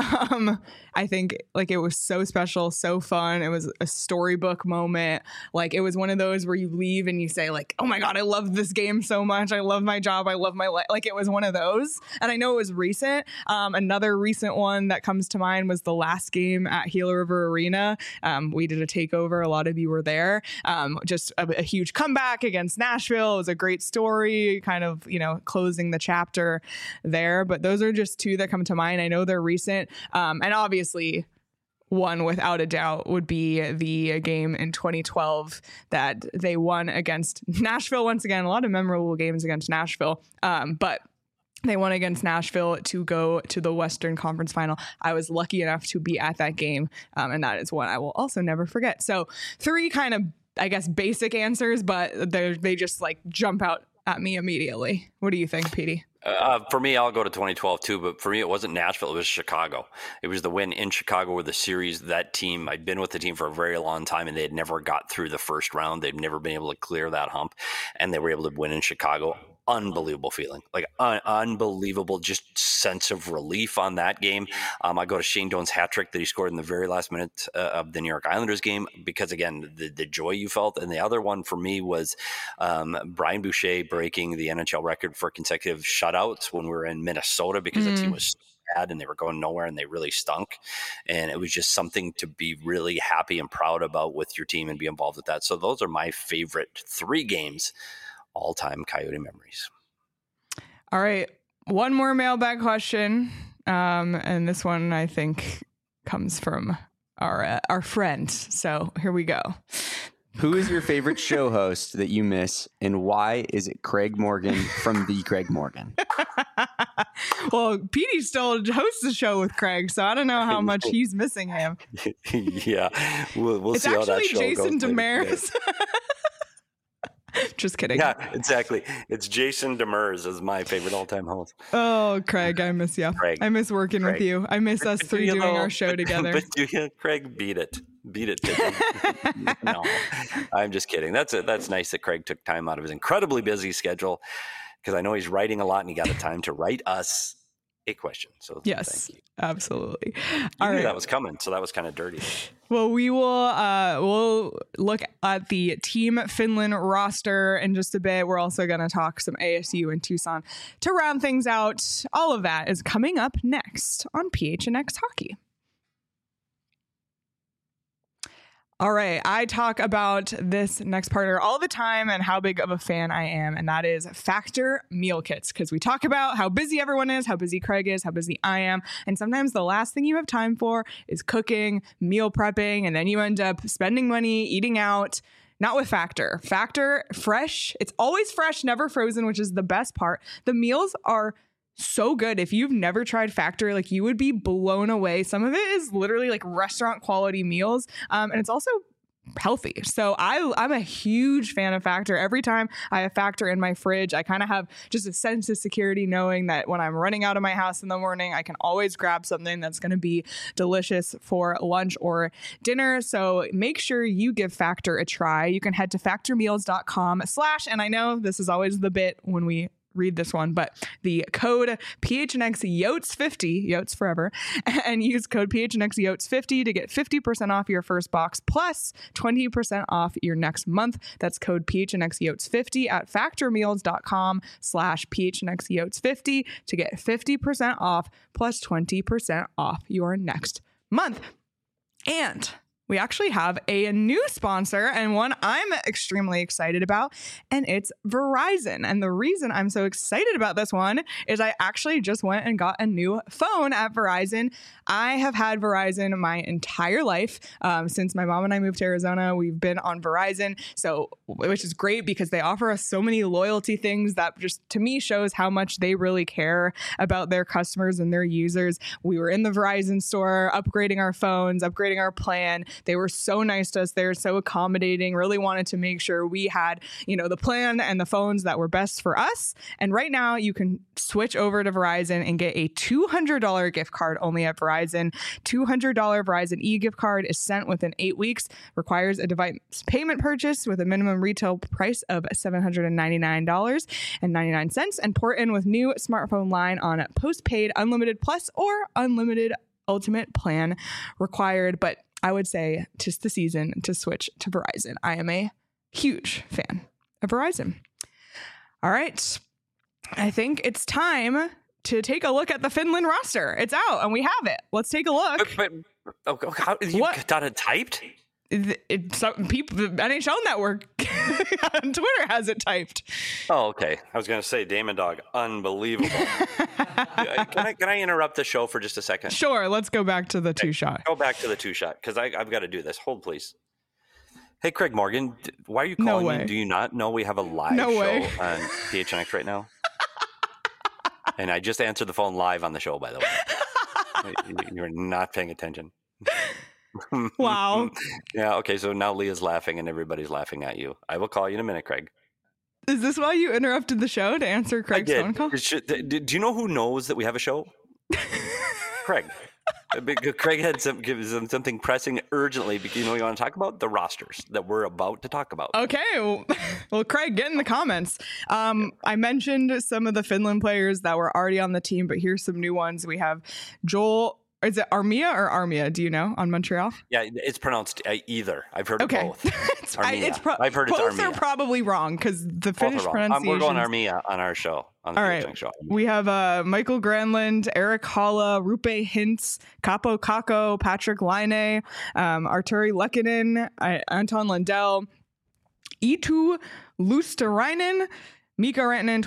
I think like it was so special, so fun. It was a storybook moment. Like it was one of those where you leave and you say like, oh my God, I love this game so much. I love my job. I love my life. Like it was one of those. And I know it was recent. Another recent one that comes to mind was the last game at Gila River Arena. We did a takeover. A lot of you were there. Just a huge comeback against Nashville. It was a great story, kind of, closing the chapter there. But those are just 2 that come to mind. I know they're recent. And obviously one without a doubt would be the game in 2012 that they won against Nashville. Once again, a lot of memorable games against Nashville. But they won against Nashville to go to the Western Conference Final. I was lucky enough to be at that game. And that is one I will also never forget. So 3 kind of, I guess, basic answers, but they just like jump out at me immediately. What do you think, Petey? For me, I'll go to 2012 too, but for me, it wasn't Nashville. It was Chicago. It was the win in Chicago with the series. That team, I'd been with the team for a very long time, and they had never got through the first round. They'd never been able to clear that hump, and they were able to win in Chicago. Unbelievable feeling, like unbelievable, just sense of relief on that game. I go to Shane Doan's hat trick that he scored in the very last minute of the New York Islanders game, because again, the joy you felt. And the other one for me was Brian Boucher breaking the NHL record for consecutive shutouts when we were in Minnesota, because the team was so bad and they were going nowhere and they really stunk. And it was just something to be really happy and proud about with your team and be involved with that. So those are my favorite 3 games. All-time Coyote memories. All right. One more mailbag question. And this one, I think, comes from our friend. So here we go. Who is your favorite show host that you miss, and why is it Craig Morgan from The Craig Morgan? Well, Petey still hosts the show with Craig, so I don't know how much he's missing him. Yeah. We'll see how that show goes. It's actually Jason Demers. Just kidding. Yeah, exactly. It's Jason Demers is my favorite all-time host. Oh, Craig, I miss you. Craig, I miss working with you. I miss us 3 doing our show together. But Craig, beat it. No, I'm just kidding. That's nice that Craig took time out of his incredibly busy schedule, because I know he's writing a lot and he got the time to write us question. So Yes, thank you. absolutely. You All knew right. that was coming, so that was kind of dirty. Well, we will we'll look at the Team Finland roster in just a bit. We're also going to talk some ASU and Tucson to round things out. All of that is coming up next on PHNX Hockey. All right, I talk about this next partner all the time and how big of a fan I am, and that is Factor Meal Kits, because we talk about how busy everyone is, how busy Craig is, how busy I am, and sometimes the last thing you have time for is cooking, meal prepping, and then you end up spending money, eating out. Not with Factor. Factor, fresh. It's always fresh, never frozen, which is the best part. The meals are so good. If you've never tried Factor, like, you would be blown away. Some of it is literally like restaurant quality meals, and it's also healthy. So I'm a huge fan of Factor. Every time I have Factor in my fridge, I kind of have just a sense of security knowing that when I'm running out of my house in the morning, I can always grab something that's going to be delicious for lunch or dinner. So make sure you give Factor a try. You can head to factormeals.com/ and I know this is always the bit when we read this one, but the code PHNXYOTS50, Yotes forever, and use code PHNXYOTS50 to get 50% off your first box plus 20% off your next month. That's code PHNXYOTS50 at factormeals.com/ PHNXYOTS50 to get 50% off plus 20% off your next month. And we actually have a new sponsor, and one I'm extremely excited about, and it's Verizon. And the reason I'm so excited about this one is I actually just went and got a new phone at Verizon. I have had Verizon my entire life. Since my mom and I moved to Arizona, we've been on Verizon, which is great because they offer us so many loyalty things that just, to me, shows how much they really care about their customers and their users. We were in the Verizon store upgrading our phones, upgrading our plan. They were so nice to us. They're so accommodating, really wanted to make sure we had, the plan and the phones that were best for us. And right now you can switch over to Verizon and get a $200 gift card only at Verizon. $200 Verizon e-gift card is sent within 8 weeks, requires a device payment purchase with a minimum retail price of $799.99, and port in with new smartphone line on postpaid, unlimited plus, or unlimited ultimate plan required. But I would say 'tis the season to switch to Verizon. I am a huge fan of Verizon. All right. I think it's time to take a look at the Finland roster. It's out and we have it. Let's take a look. But how, you got it typed? Some people, the NHL Network on Twitter has it typed. Oh, okay. I was going to say Damon Dog, unbelievable. Can I interrupt the show for just a second? Sure. Let's go back to the two-shot. Go back to the two-shot because I've got to do this. Hold, please. Hey, Craig Morgan, why are you calling me? Do you not know we have a live show on PHNX right now? And I just answered the phone live on the show, by the way. You're not paying attention. Wow. Yeah, okay, so now Leah's laughing and everybody's laughing at you. I will call you in a minute, Craig. Is this why you interrupted the show to answer Craig's phone call? Do you know who knows that we have a show? Craig. Craig had something pressing urgently. You want to talk about the rosters that we're about to talk about. Okay. Well, Craig, get in the comments. I mentioned some of the Finland players that were already on the team, but here's some new ones. We have Joel. Is it Armia or Armia? Do you know, on Montreal? Yeah, it's pronounced either. I've heard of both. I've heard both are probably wrong because the Finnish pronunciation. We're going Armia on our show. On the right. Show. We have Michael Granlund, Eric Halla, Rupe Hintz, Capo Kakko, Patrick Laine, Arturi Lehkonen, Anton Lundell, Eetu Luosterainen, Mika Rantanen,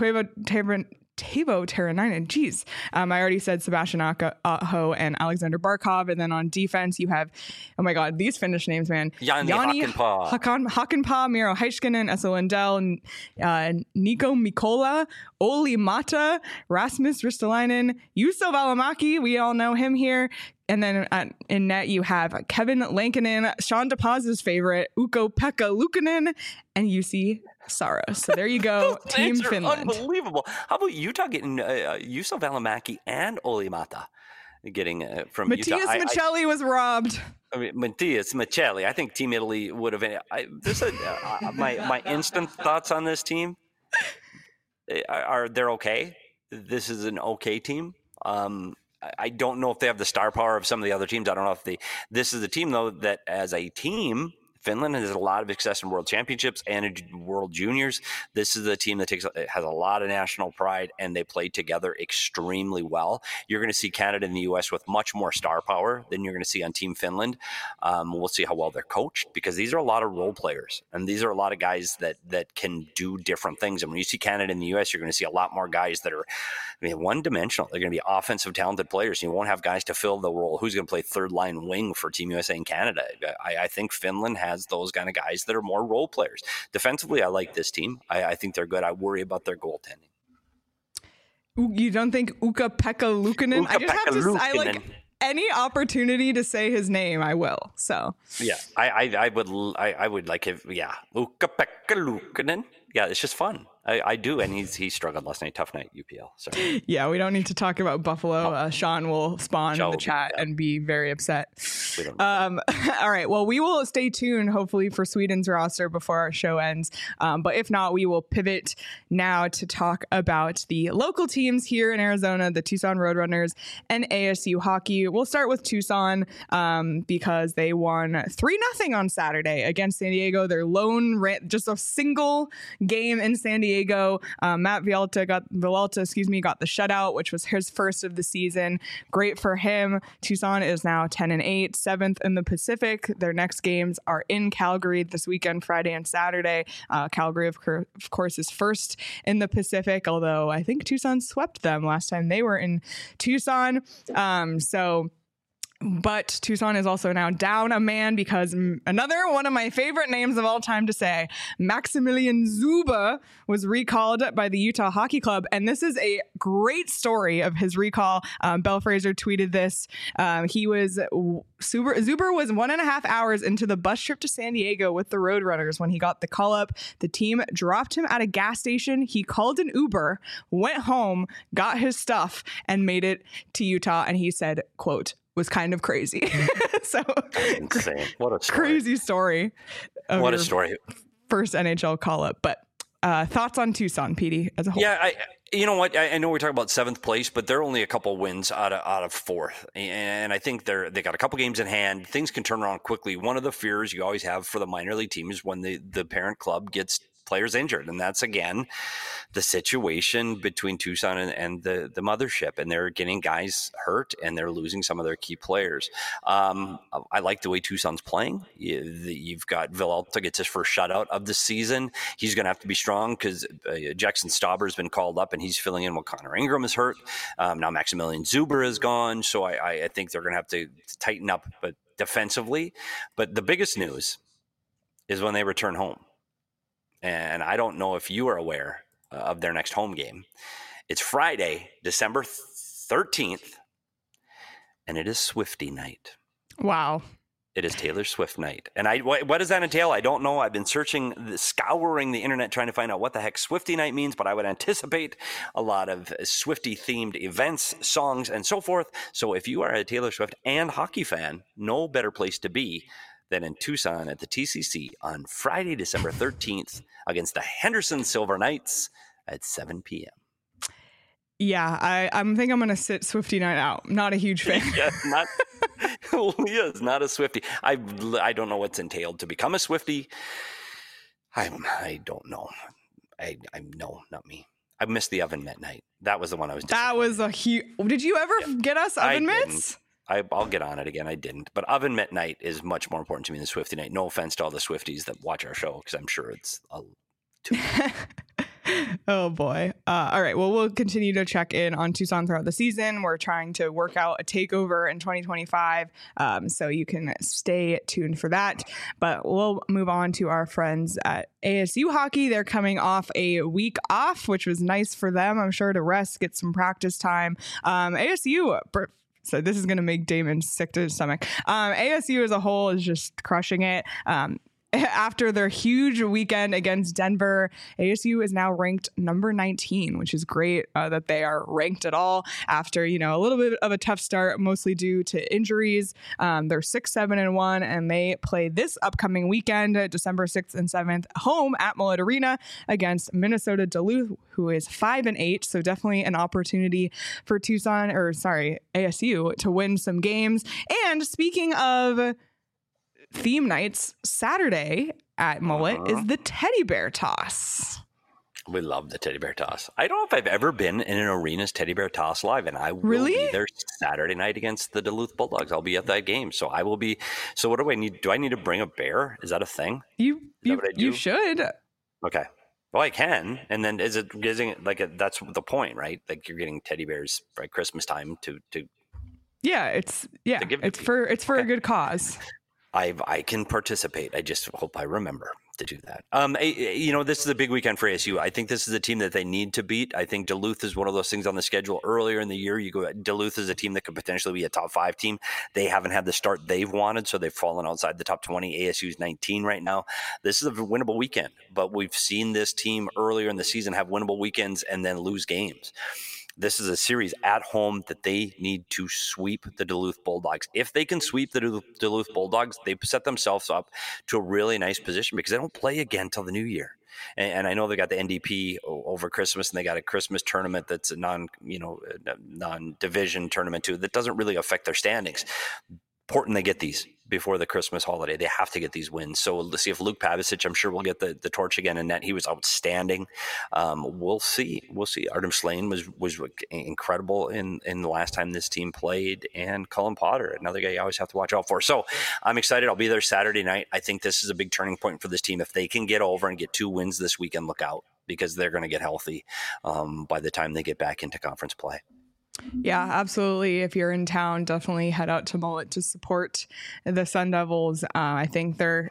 Teuvo Teravainen. Jeez. I already said Sebastian Aho and Alexander Barkov. And then on defense, you have, oh my God, these Finnish names, man. Jani Hakanpää, Miro Heiskanen, Esa Lindell, Nico Mikola, Olli Mata, Rasmus Ristolainen, Juuso Välimäki. We all know him here. And then in net, you have Kevin Lankinen, Sean DePaz's favorite, Ukko-Pekka Luukkonen, and Jussi Saros. So there you go, Team Finland. Unbelievable. How about Utah getting Juuso Välimäki and Olli Mata getting from Utah? Matias Maccelli was robbed. I mean, Matias Maccelli. I think Team Italy would have. My instant thoughts on this team are they're okay. This is an okay team. I don't know if they have the star power of some of the other teams. I don't know if this is a team, though, that as a team, Finland has a lot of success in World Championships and in World Juniors. This is a team that has a lot of national pride, and they play together extremely well. You're going to see Canada and the U.S. with much more star power than you're going to see on Team Finland. We'll see how well they're coached, because these are a lot of role players, and these are a lot of guys that can do different things. And when you see Canada and the U.S., you're going to see a lot more guys that are one-dimensional. They're going to be offensive, talented players. You won't have guys to fill the role. Who's going to play third-line wing for Team USA and Canada? I think Finland has those kind of guys that are more role players. Defensively, I like this team. I think they're good. I worry about their goaltending. You don't think Ukko-Pekka Luukkonen? I just have to. I like any opportunity to say his name, I will. So yeah, I would like it. Yeah, Ukko-Pekka Luukkonen. Yeah, it's just fun. I do, and he struggled last night. Tough night, UPL. Sorry. Yeah, we don't need to talk about Buffalo. Sean will spawn in the chat and be very upset. All right, well, we will stay tuned, hopefully, for Sweden's roster before our show ends. But if not, we will pivot now to talk about the local teams here in Arizona, the Tucson Roadrunners and ASU Hockey. We'll start with Tucson because they won 3-0 on Saturday against San Diego. Their lone, just a single game in San Diego. Matt Villalta got the shutout, which was his first of the season. Great for him. Tucson is now 10-8, 7th in the Pacific. Their next games are in Calgary this weekend, Friday and Saturday. Calgary, of course, is first in the Pacific, although I think Tucson swept them last time they were in Tucson. But Tucson is also now down a man because another one of my favorite names of all time to say, Maximilian Zuber, was recalled by the Utah Hockey Club. And this is a great story of his recall. Belle Fraser tweeted this. Zuber was 1.5 hours into the bus trip to San Diego with the Roadrunners when he got the call up. The team dropped him at a gas station. He called an Uber, went home, got his stuff, and made it to Utah. And he said, quote, was kind of crazy. So insane. What a story. Crazy story. What a story. First NHL call up. But thoughts on Tucson, Petey, as a whole? Yeah, you know what? I know we're talking about 7th place, but they're only a couple wins out of 4th. And I think they got a couple games in hand. Things can turn around quickly. One of the fears you always have for the minor league team is when the parent club gets players injured, and that's again the situation between Tucson and the mothership, and they're getting guys hurt and they're losing some of their key players. I like the way Tucson's playing. You've got Villalta gets his first shutout of the season. He's going to have to be strong because Jackson Stauber has been called up and he's filling in while Connor Ingram is hurt. Now Maximilian Zuber is gone, so I think they're going to have to tighten up, but defensively. But the biggest news is when they return home. And I don't know if you are aware of their next home game. It's Friday, December 13th, and it is Swiftie night. Wow. It is Taylor Swift night. And what does that entail? I don't know. I've been scouring the internet trying to find out what the heck Swiftie night means, but I would anticipate a lot of Swiftie-themed events, songs, and so forth. So if you are a Taylor Swift and hockey fan, no better place to be than in Tucson at the TCC on Friday, December 13th against the Henderson Silver Knights at 7 p.m. Yeah, I think I'm going to sit Swiftie night out. Not a huge fan. Yeah, not a Swiftie. I don't know what's entailed to become a Swiftie. I don't know. No, not me. I missed the oven mitt night. That was the one I was. That was a huge. Did you ever get us oven mitts? I'll get on it again. I didn't. But oven mitt night is much more important to me than Swiftie night. No offense to all the Swifties that watch our show, because I'm sure it's too much. Oh, boy. All right. Well, we'll continue to check in on Tucson throughout the season. We're trying to work out a takeover in 2025, so you can stay tuned for that. But we'll move on to our friends at ASU Hockey. They're coming off a week off, which was nice for them, I'm sure, to rest, get some practice time. ASU... So this is going to make Damon sick to his stomach. ASU as a whole is just crushing it. after their huge weekend against Denver, ASU is now ranked number 19, which is great that they are ranked at all after, you know, a little bit of a tough start, mostly due to injuries. They're 6-7-1, and they play this upcoming weekend, December 6th and 7th, home at Mullet Arena against Minnesota Duluth, who is 5-8. So definitely an opportunity for ASU to win some games. And speaking of theme nights, Saturday at Mullet is the teddy bear toss. We love the teddy bear toss. I don't know if I've ever been in an arena's teddy bear toss live, and I will be there Saturday night against the Duluth Bulldogs. I'll be at that game, so I will be. So what do I need? Do I need to bring a bear? Is that a thing? You should. Okay. Well, I can, and then is it that's the point, right? Like you're getting teddy bears by Christmas time to. Yeah, it's for a good cause. I can participate. I just hope I remember to do that. This is a big weekend for ASU. I think this is a team that they need to beat. I think Duluth is one of those things on the schedule earlier in the year. Duluth is a team that could potentially be a top 5 team. They haven't had the start they've wanted, so they've fallen outside the top 20. ASU's 19 right now. This is a winnable weekend, but we've seen this team earlier in the season have winnable weekends and then lose games. This is a series at home that they need to sweep the Duluth Bulldogs. If they can sweep the Duluth Bulldogs, they set themselves up to a really nice position because they don't play again till the new year. And I know they got the NDP over Christmas, and they got a Christmas tournament that's a non-division tournament too. That doesn't really affect their standings. Important they get these before the Christmas holiday. They have to get these wins. So let's see if Luke Pavicic, I'm sure, will get the torch again in net. He was outstanding. We'll see. Artem Slane was incredible in the last time this team played, and Cullen Potter, another guy you always have to watch out for. So I'm excited. I'll be there Saturday night. I think this is a big turning point for this team. If they can get over and get 2 wins this weekend, look out, because they're going to get healthy by the time they get back into conference play. Yeah, absolutely. If you're in town, definitely head out to Mullet to support the Sun Devils. I think like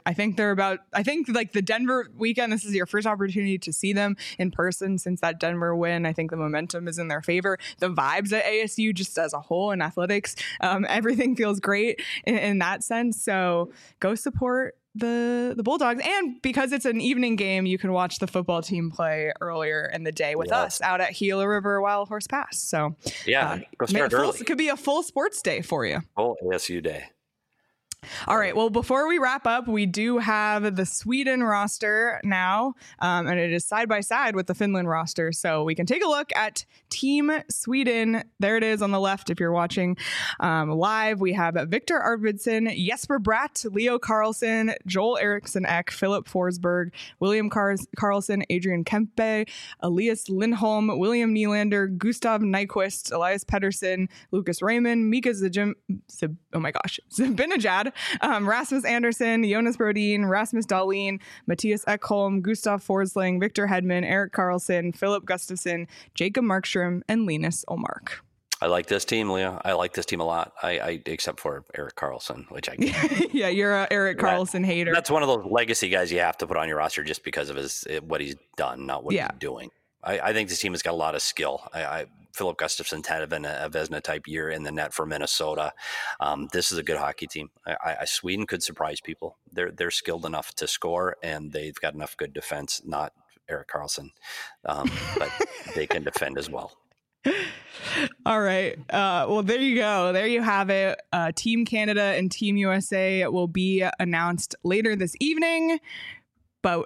the Denver weekend, this is your first opportunity to see them in person since that Denver win. I think the momentum is in their favor. The vibes at ASU just as a whole in athletics, everything feels great in that sense. So go support the Bulldogs, and because it's an evening game, you can watch the football team play earlier in the day with us out at Gila River Wild Horse Pass. So go start early. It could be a full sports day for you. Full ASU day. All right. Well, before we wrap up, we do have the Sweden roster now, and it is side by side with the Finland roster. So we can take a look at Team Sweden. There it is on the left if you're watching live. We have Victor Arvidsson, Jesper Bratt, Leo Carlson, Joel Eriksson Ek, Philip Forsberg, William Carlson, Adrian Kempe, Elias Lindholm, William Nylander, Gustav Nyquist, Elias Pettersson, Lucas Raymond, Mika Zibanejad, Rasmus Andersson, Jonas Brodin, Rasmus Dahlin, Matthias Ekholm, Gustav Forsling, Victor Hedman, Erik Karlsson, Philip Gustafsson, Jacob Markstrom, and Linus Ullmark. I like this team, Leah. I like this team a lot. I except for Erik Karlsson, which I yeah, you're a Erik Karlsson hater. That's one of those legacy guys you have to put on your roster just because of what he's done, not what he's doing. I think this team has got a lot of skill. Philip Gustafsson had been a Vezina type year in the net for Minnesota. This is a good hockey team. Sweden could surprise people. They're skilled enough to score, and they've got enough good defense. Not Erik Karlsson, but they can defend as well. All right. Well, there you go. There you have it. Team Canada and Team USA will be announced later this evening. But,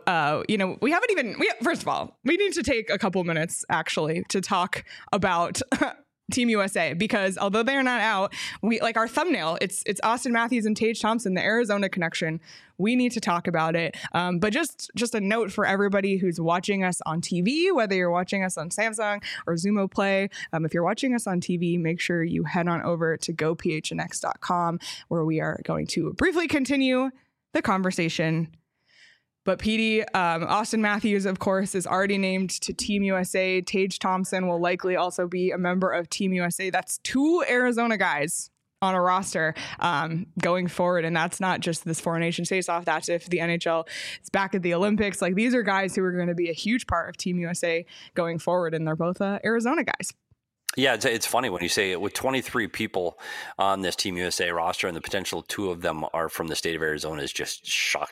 first of all, we need to take a couple minutes actually to talk about Team USA, because although they're not out, we like our thumbnail. It's Austin Matthews and Tage Thompson, the Arizona connection. We need to talk about it. But just a note for everybody who's watching us on TV, whether you're watching us on Samsung or Xumo Play, if you're watching us on TV, make sure you head on over to gophnx.com, where we are going to briefly continue the conversation. But PD, Austin Matthews, of course, is already named to Team USA. Tage Thompson will likely also be a member of Team USA. That's 2 Arizona guys on a roster going forward. And that's not just this Four Nations face-off. That's if the NHL is back at the Olympics. Like, these are guys who are going to be a huge part of Team USA going forward. And they're both Arizona guys. Yeah, it's funny when you say it, with 23 people on this Team USA roster and the potential 2 of them are from the state of Arizona is just shocking.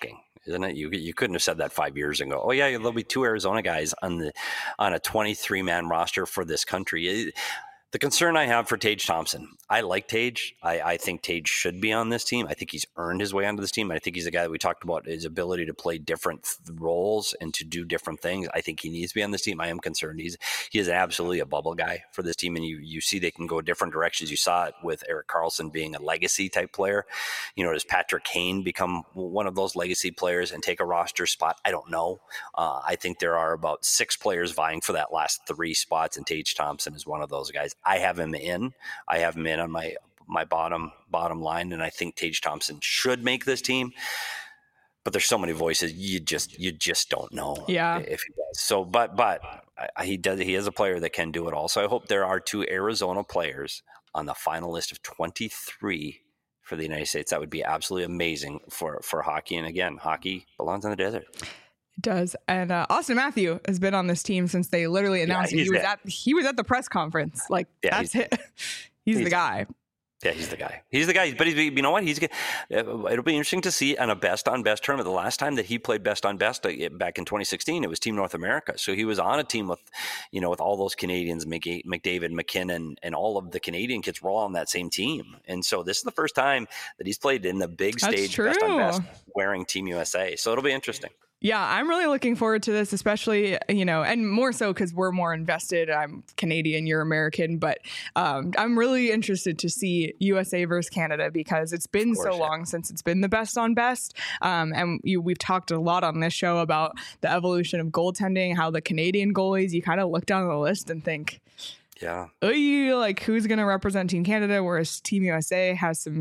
isn't it? You couldn't have said that 5 years ago. Oh yeah, there'll be 2 Arizona guys on a 23-man roster for this country. The concern I have for Tage Thompson, I like Tage. I think Tage should be on this team. I think he's earned his way onto this team. I think he's a guy that we talked about, his ability to play different roles and to do different things. I think he needs to be on this team. I am concerned. He is absolutely a bubble guy for this team, and you see they can go different directions. You saw it with Erik Karlsson being a legacy type player. Does Patrick Kane become one of those legacy players and take a roster spot? I don't know. I think there are about 6 players vying for that last 3 spots, and Tage Thompson is one of those guys. I have him in on my bottom line, and I think Tage Thompson should make this team. But there's so many voices, you just don't know if he does. So, but he does. He is a player that can do it all. So I hope there are 2 Arizona players on the final list of 23 for the United States. That would be absolutely amazing for hockey. And again, hockey belongs in the desert. It does. And Austin Matthew has been on this team since they literally announced he was at the press conference. Like, that's it. He's the guy. Yeah, he's the guy. He's the guy. But you know what? It'll be interesting to see on a best on best tournament. The last time that he played best on best back in 2016, it was Team North America. So he was on a team with all those Canadians, McDavid, McKinnon, and all of the Canadian kids were all on that same team. And so this is the first time that he's played in the big stage, best on best, wearing Team USA. So it'll be interesting. Yeah, I'm really looking forward to this, especially, and more so because we're more invested. I'm Canadian, you're American, but I'm really interested to see USA versus Canada because it's been so long since it's been the best on best. And we've talked a lot on this show about the evolution of goaltending, how the Canadian goalies, you kind of look down the list and think, yeah, like who's going to represent Team Canada? Whereas Team USA has some,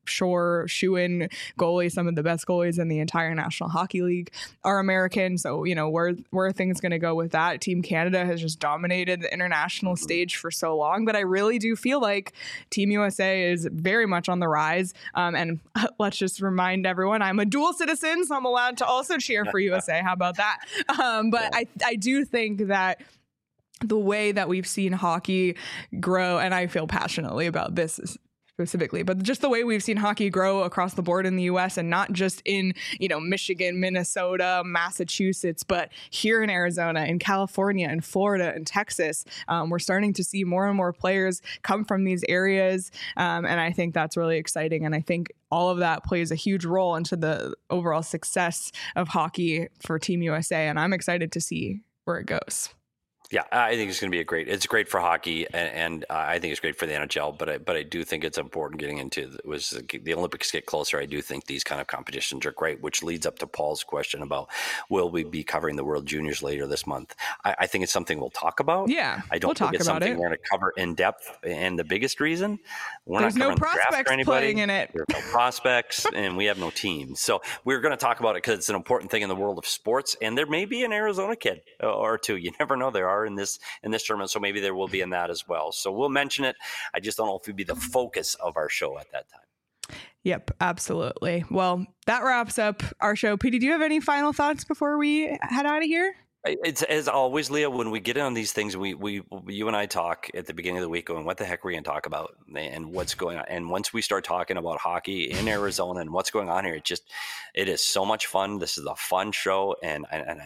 shoe-in goalies. Some of the best goalies in the entire National Hockey League are American. So, where are things going to go with that? Team Canada has just dominated the international stage for so long. But I really do feel like Team USA is very much on the rise. And let's just remind everyone, I'm a dual citizen, so I'm allowed to also cheer for USA. How about that? But I do think that the way that we've seen hockey grow, and I feel passionately about this specifically, but just the way we've seen hockey grow across the board in the U.S. and not just in, Michigan, Minnesota, Massachusetts, but here in Arizona, in California, in Florida, and Texas, we're starting to see more and more players come from these areas. And I think that's really exciting. And I think all of that plays a huge role into the overall success of hockey for Team USA. And I'm excited to see where it goes. Yeah, I think it's going to be it's great for hockey, and I think it's great for the NHL. But I do think it's important getting into the Olympics get closer. I do think these kind of competitions are great, which leads up to Paul's question about will we be covering the World Juniors later this month? I think it's something we'll talk about. Yeah, I don't think it's something we're going to cover in depth. And the biggest reason there's no prospects playing in it. There's no prospects, and we have no team. So we're going to talk about it because it's an important thing in the world of sports. And there may be an Arizona kid or two. You never know. There are in this tournament, so maybe there will be in that as well. So we'll mention it. I just don't know if it'd be the focus of our show at that time. Yep, absolutely. Well, that wraps up our show. Petey, do you have any final thoughts before we head out of here? It's as always, Leah, when we get on these things, you and I talk at the beginning of the week going, what the heck are we going to talk about and what's going on? And once we start talking about hockey in Arizona and what's going on here, it is so much fun. This is a fun show. And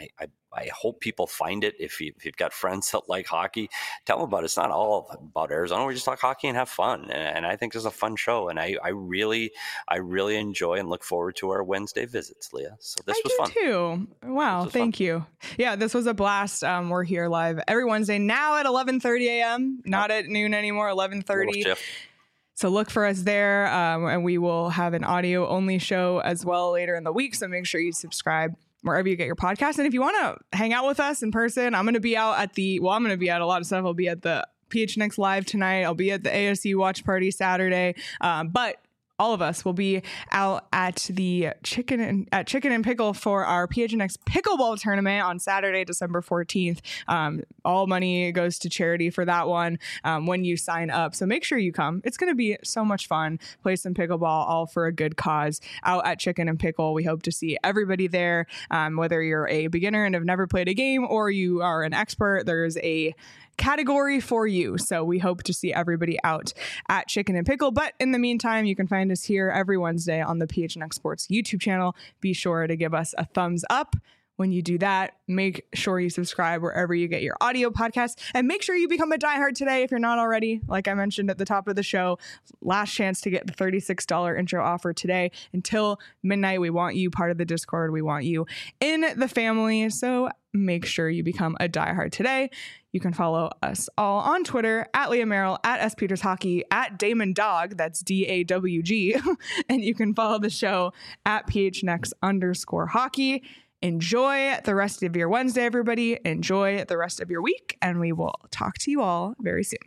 I hope people find it. If you've got friends that like hockey, tell them about it. It's not all about Arizona. We just talk hockey and have fun. And I think this is a fun show. And I really enjoy and look forward to our Wednesday visits, Leah. So this was fun. Too. Wow. Thank you. Yeah, this was a blast. We're here live every Wednesday now at 11:30 a.m. Not at noon anymore, 11:30. So look for us there. And we will have an audio only show as well later in the week. So make sure you subscribe wherever you get your podcast. And if you want to hang out with us in person, I'm going to be out at a lot of stuff. I'll be at the PHNX Live tonight. I'll be at the ASU Watch Party Saturday. But all of us will be out at the Chicken and Pickle for our PHNX Pickleball Tournament on Saturday, December 14th. All money goes to charity for that one when you sign up. So make sure you come. It's going to be so much fun. Play some pickleball, all for a good cause out at Chicken and Pickle. We hope to see everybody there, whether you're a beginner and have never played a game or you are an expert. There's a category for you. So we hope to see everybody out at Chicken and Pickle. But in the meantime, you can find us here every Wednesday on the PHNX Sports YouTube channel. Be sure to give us a thumbs up. When you do that, make sure you subscribe wherever you get your audio podcasts, and make sure you become a diehard today if you're not already. Like I mentioned at the top of the show, last chance to get the $36 intro offer today until midnight. We want you part of the Discord. We want you in the family. So make sure you become a diehard today. You can follow us all on Twitter at Leah Merrill, at S Peters Hockey, at Damon Dog, that's DAWG, and you can follow the show at PHNX_hockey. Enjoy the rest of your Wednesday, everybody. Enjoy the rest of your week, and we will talk to you all very soon.